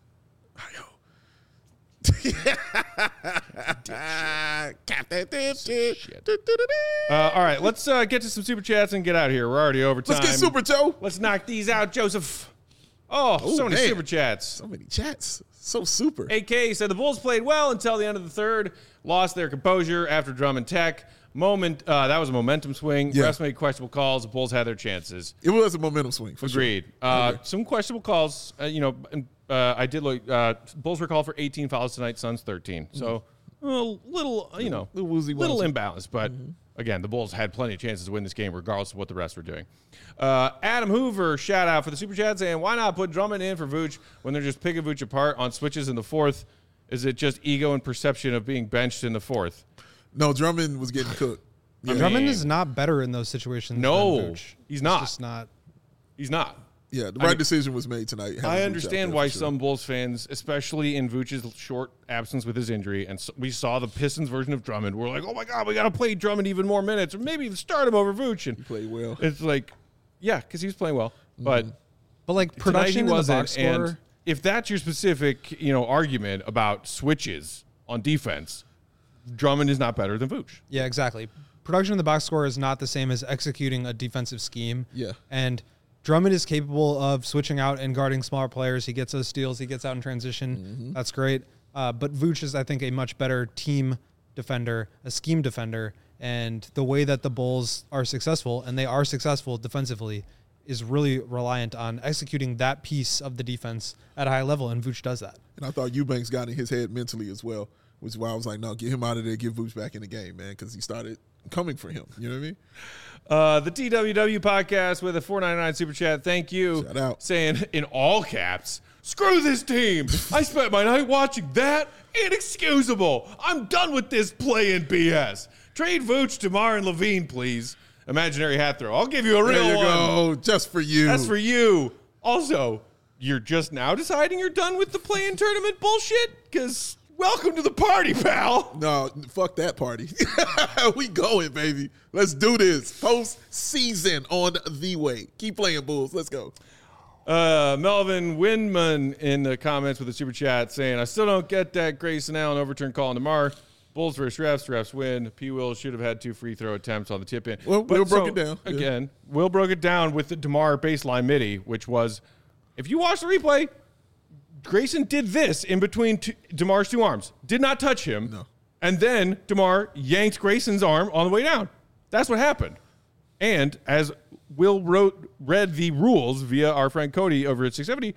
A: All right, let's get to some Super Chats and get out of here. We're already over time.
B: Let's get Super Joe.
A: Let's knock these out, Joseph. Oh, so many Super Chats.
B: So many chats. So super.
A: AK said the Bulls played well until the end of the third, lost their composure after Drummond Tech. That was a momentum swing.
B: Yeah.
A: Refs made questionable calls. The Bulls had their chances.
B: It was a momentum swing, for
A: Agreed.
B: Sure.
A: Some questionable calls. I did look. Bulls were called for 18 fouls tonight. Suns 13. So a little imbalance. But again, the Bulls had plenty of chances to win this game, regardless of what the refs were doing. Adam Hoover, shout out for the Super Chat, saying, why not put Drummond in for Vooch when they're just picking Vooch apart on switches in the fourth? Is it just ego and perception of being benched in the fourth?
B: No, Drummond was getting cooked.
C: Yeah. Drummond is not better in those situations.
A: No, he's not.
C: Just not.
A: He's not.
B: Yeah, the right decision was made tonight.
A: I understand why some Bulls fans, especially in Vooch's short absence with his injury, and we saw the Pistons version of Drummond, we're like, oh my God, we got to play Drummond even more minutes, or maybe start him over Vooch. And
B: he played well.
A: It's like, yeah, because he was playing well. But
C: But like
A: Tonight
C: production
A: he
C: in the box
A: wasn't, and
C: score.
A: if that's your specific, argument about switches on defense, Drummond is not better than Vooch.
C: Yeah, exactly. Production in the box score is not the same as executing a defensive scheme.
B: Yeah.
C: And Drummond is capable of switching out and guarding smaller players. He gets those steals. He gets out in transition.
B: Mm-hmm.
C: That's great. But Vooch is, I think, a much better team defender, a scheme defender. And the way that the Bulls are successful, and they are successful defensively, is really reliant on executing that piece of the defense at a high level, and Vooch does that.
B: And I thought Eubanks got in his head mentally as well, which is why I was like, no, get him out of there, get Vooch back in the game, man, because he started coming for him. You know what I mean?
A: The TWW podcast with a $4.99 super chat. Thank you.
B: Shout out.
A: Saying in all caps, screw this team. I spent my night watching that. Inexcusable. I'm done with this play-in BS. Trade Vooch, DeMar, and Levine, please. Imaginary hat throw. I'll give you a real
B: There you
A: one.
B: go, just for you.
A: That's for you. Also, you're just now deciding you're done with the play-in tournament bullshit? Because welcome to the party, pal.
B: No, fuck that party. We going, baby. Let's do this. Post-season on the way. Keep playing, Bulls. Let's go.
A: Melvin Windman in the comments with a super chat saying, I still don't get that Grayson Allen overturn call on DeMar. Bulls versus refs win. P. Will should have had 2 free throw attempts on the tip in.
B: Well, Will broke it down. Yeah.
A: Again, Will broke it down with the DeMar baseline midi, which was, if you watch the replay, Grayson did this in between DeMar's 2 arms. Did not touch him.
B: No.
A: And then DeMar yanked Grayson's arm on the way down. That's what happened. And as Will read the rules via our friend Cody over at 670,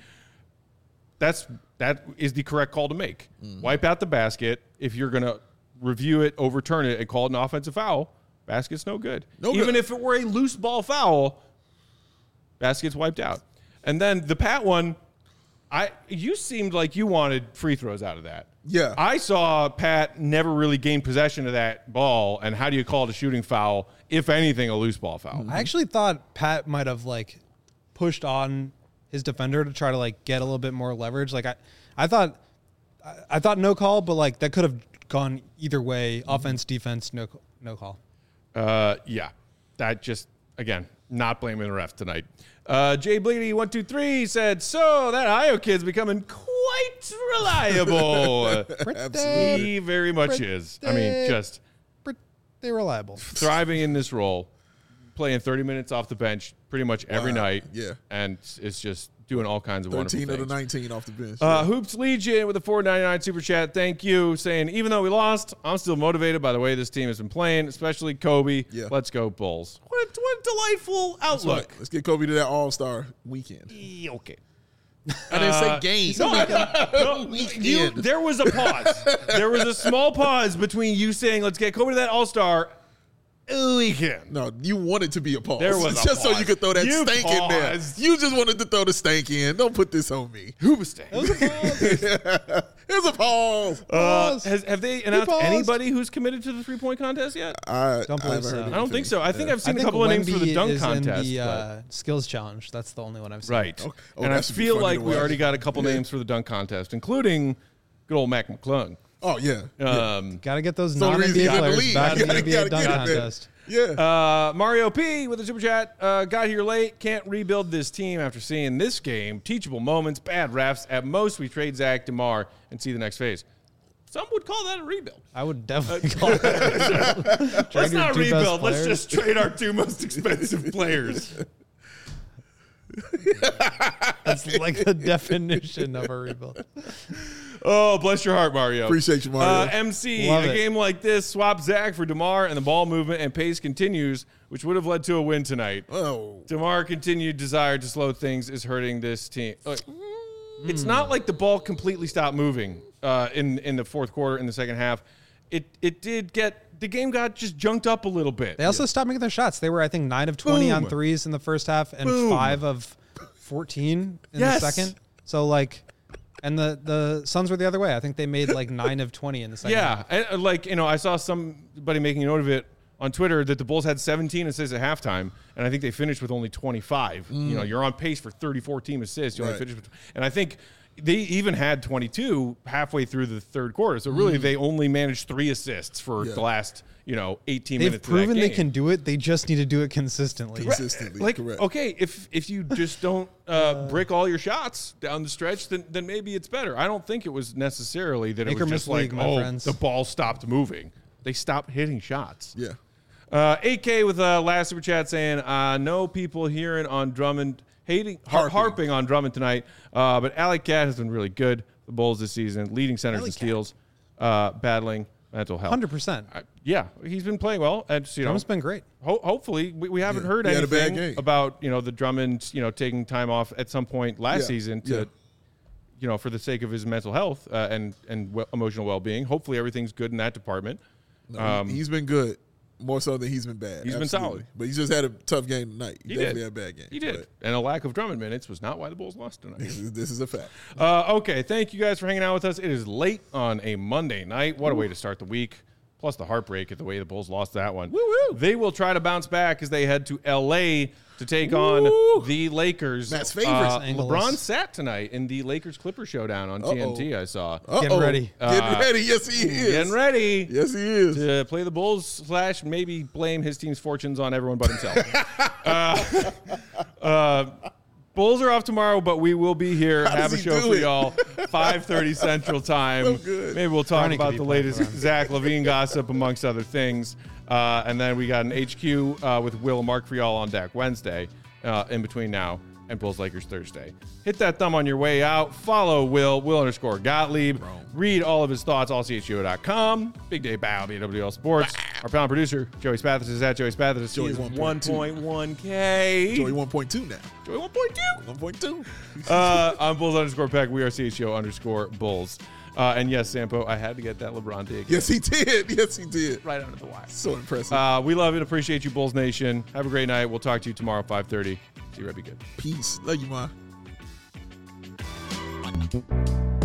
A: that is the correct call to make. Wipe out the basket. If you're going to review it, overturn it, and call it an offensive foul, basket's no good. Even if it were a loose ball foul, basket's wiped out. And then the Pat one, you seemed like you wanted free throws out of that.
B: Yeah.
A: I saw Pat never really gain possession of that ball, and how do you call it a shooting foul, if anything, a loose ball foul?
C: I actually thought Pat might have pushed on his defender to try to get a little bit more leverage. I thought no call, but that could have gone either way. Offense, defense, no call.
A: Yeah. That just, again, not blaming the ref tonight. Jay Bleedy 123 said, so that Io kid's becoming quite reliable. He very much is. I mean, just
C: Pretty reliable.
A: thriving in this role, playing 30 minutes off the bench pretty much every night.
B: Yeah.
A: And it's just doing all kinds of wonderful
B: 13
A: things.
B: of the 19 off the bench.
A: Hoops Legion with a $4.99 super chat. Thank you. Saying, even though we lost, I'm still motivated by the way this team has been playing, especially Kobe.
B: Yeah.
A: Let's go Bulls. What a delightful
B: That's
A: outlook.
B: right. Let's get Kobe to that All-Star weekend.
A: Okay.
B: I didn't say game.
A: There was a pause. There was a small pause between you saying, let's get Kobe to that All-Star weekend.
B: No, you wanted to be a pause.
A: There was a
B: just so
A: pause.
B: you could throw that
A: You
B: stank in there.
A: paused.
B: You just wanted to throw the stank in. Don't put this on me.
A: Hoobastank.
B: Here's a pause.
A: Have they announced
C: paused.
A: anybody who's committed to the 3-point contest yet?
B: I
C: Don't believe
B: haven't
C: so.
B: heard
A: I don't
B: anything.
A: think so. I think I've seen
C: I
A: a
C: think
A: couple of names for the
C: Wemby
A: dunk
C: is
A: contest.
C: in
A: but-
C: the skills challenge. That's the only one I've seen.
A: Right.
B: Oh,
A: And I
B: that should be
A: feel
B: funny
A: like
B: to
A: we
B: watch.
A: already got a couple names for the dunk contest, including good old Mac McClung.
B: Oh, yeah.
C: Got to get those
B: It's the only reason he
C: non-NBA
B: got in the
C: players
B: league.
C: back in the
B: Gotta
C: NBA
B: get
C: dunk
B: that.
C: contest.
B: Yeah.
A: Mario P with a super chat. Got here late. Can't rebuild this team after seeing this game. Teachable moments, bad refs. At most, we trade Zach DeMar and see the next phase. Some would call that a rebuild.
C: I would definitely call it.
A: Let's
C: your
A: not
C: 2 best
A: rebuild. Let's
C: players.
A: just trade our 2 most expensive players.
C: That's like the definition of a rebuild.
A: Oh, bless your heart, Mario.
B: Appreciate you, Mario.
A: MC,
C: Love
A: a
C: it.
A: game like this, swap Zach for DeMar, and the ball movement and pace continues, which would have led to a win tonight.
B: Oh.
A: DeMar continued desire to slow things is hurting this team. It's not like the ball completely stopped moving in the fourth quarter, in the second half. It did get – the game got just junked up a little bit.
C: They also stopped making their shots. They were, I think, 9 of 20 on
A: Boom.
C: threes in the first half and
A: Boom.
C: 5 of 14 in
A: Yes.
C: the second. So, and the Suns were the other way. I think they made 9 of 20 in the second half.
A: Yeah, and, I saw somebody making a note of it on Twitter that the Bulls had 17 assists at halftime, and I think they finished with only 25. You're on pace for 34 team assists. You only
B: Right.
A: finished with, and I think they even had 22 halfway through the third quarter. So really, they only managed 3 assists for the last 18
C: They've
A: minutes. They've
C: proven they can do it. They just need to do it consistently.
B: Consistently, correct.
A: Okay, if you just don't brick all your shots down the stretch, then maybe it's better. I don't think it was necessarily that
C: Make
A: it
C: or
A: was
C: miss
A: just like,
C: league, my friends.
A: the ball stopped moving. They stopped hitting shots.
B: Yeah.
A: 8K with last super chat saying, no people hearing on Drummond, harping on Drummond tonight, but Alec Cat has been really good. The Bulls this season, leading centers and steals, battling mental health.
C: 100%.
A: Yeah, he's been playing well. And,
C: Drummond's been great.
A: Hopefully, we haven't heard
B: He had a bad
A: anything
B: game.
A: about the Drummond taking time off at some point last season to for the sake of his mental health and emotional well-being. Hopefully, everything's good in that department.
B: No, he's been good. More so than he's been bad.
A: He's been solid.
B: But he just had a tough game tonight.
A: He
B: definitely
A: did.
B: had a bad game.
A: He did. And a lack of Drummond minutes was not why the Bulls lost tonight.
B: This is a fact.
A: Okay, thank you guys for hanging out with us. It is late on a Monday night. What a way to start the week. Plus the heartbreak at the way the Bulls lost that one.
B: Woo-woo.
A: They will try to bounce back as they head to L.A. to take on the Lakers.
B: Matt's favorites.
A: LeBron sat tonight in the Lakers-Clippers showdown on TNT, I saw.
C: Getting ready.
B: Getting ready. Yes, he is.
A: Getting ready.
B: Yes, he is.
A: To play the Bulls / maybe blame his team's fortunes on everyone but himself. Bulls are off tomorrow, but we will be here.
B: How
A: Have a
B: does he
A: show
B: do
A: for
B: it?
A: y'all, 5:30 Central Time.
B: So good.
A: Maybe we'll talk
C: Brownie could
A: about
C: be
A: the
C: playing
A: latest
C: for them.
A: Zach LaVine gossip, amongst other things. And then we got an HQ with Will and Mark for y'all on deck Wednesday, in between now and Bulls Lakers Thursday. Hit that thumb on your way out. Follow Will_Gottlieb. Read all of his thoughts, allcho.com. Big Day Bow, BWL Sports. Our panel producer, Joey Spathis, is at Joey Spathis.
B: Joey
A: He is
B: 1.2.
A: 1.1K.
B: Joey 1.2 now.
A: Joey 1.2.
B: 1.2.
A: I'm Bulls_Peck. We are CHO_Bulls. And yes, Sampo, I had to get that LeBron dig.
B: Yes, he did. Yes, he did.
A: Right under the wire.
B: So impressive.
A: We love and appreciate you, Bulls Nation. Have a great night. We'll talk to you tomorrow, 5:30. See you, Red. Be good.
B: Peace. Love you, Ma.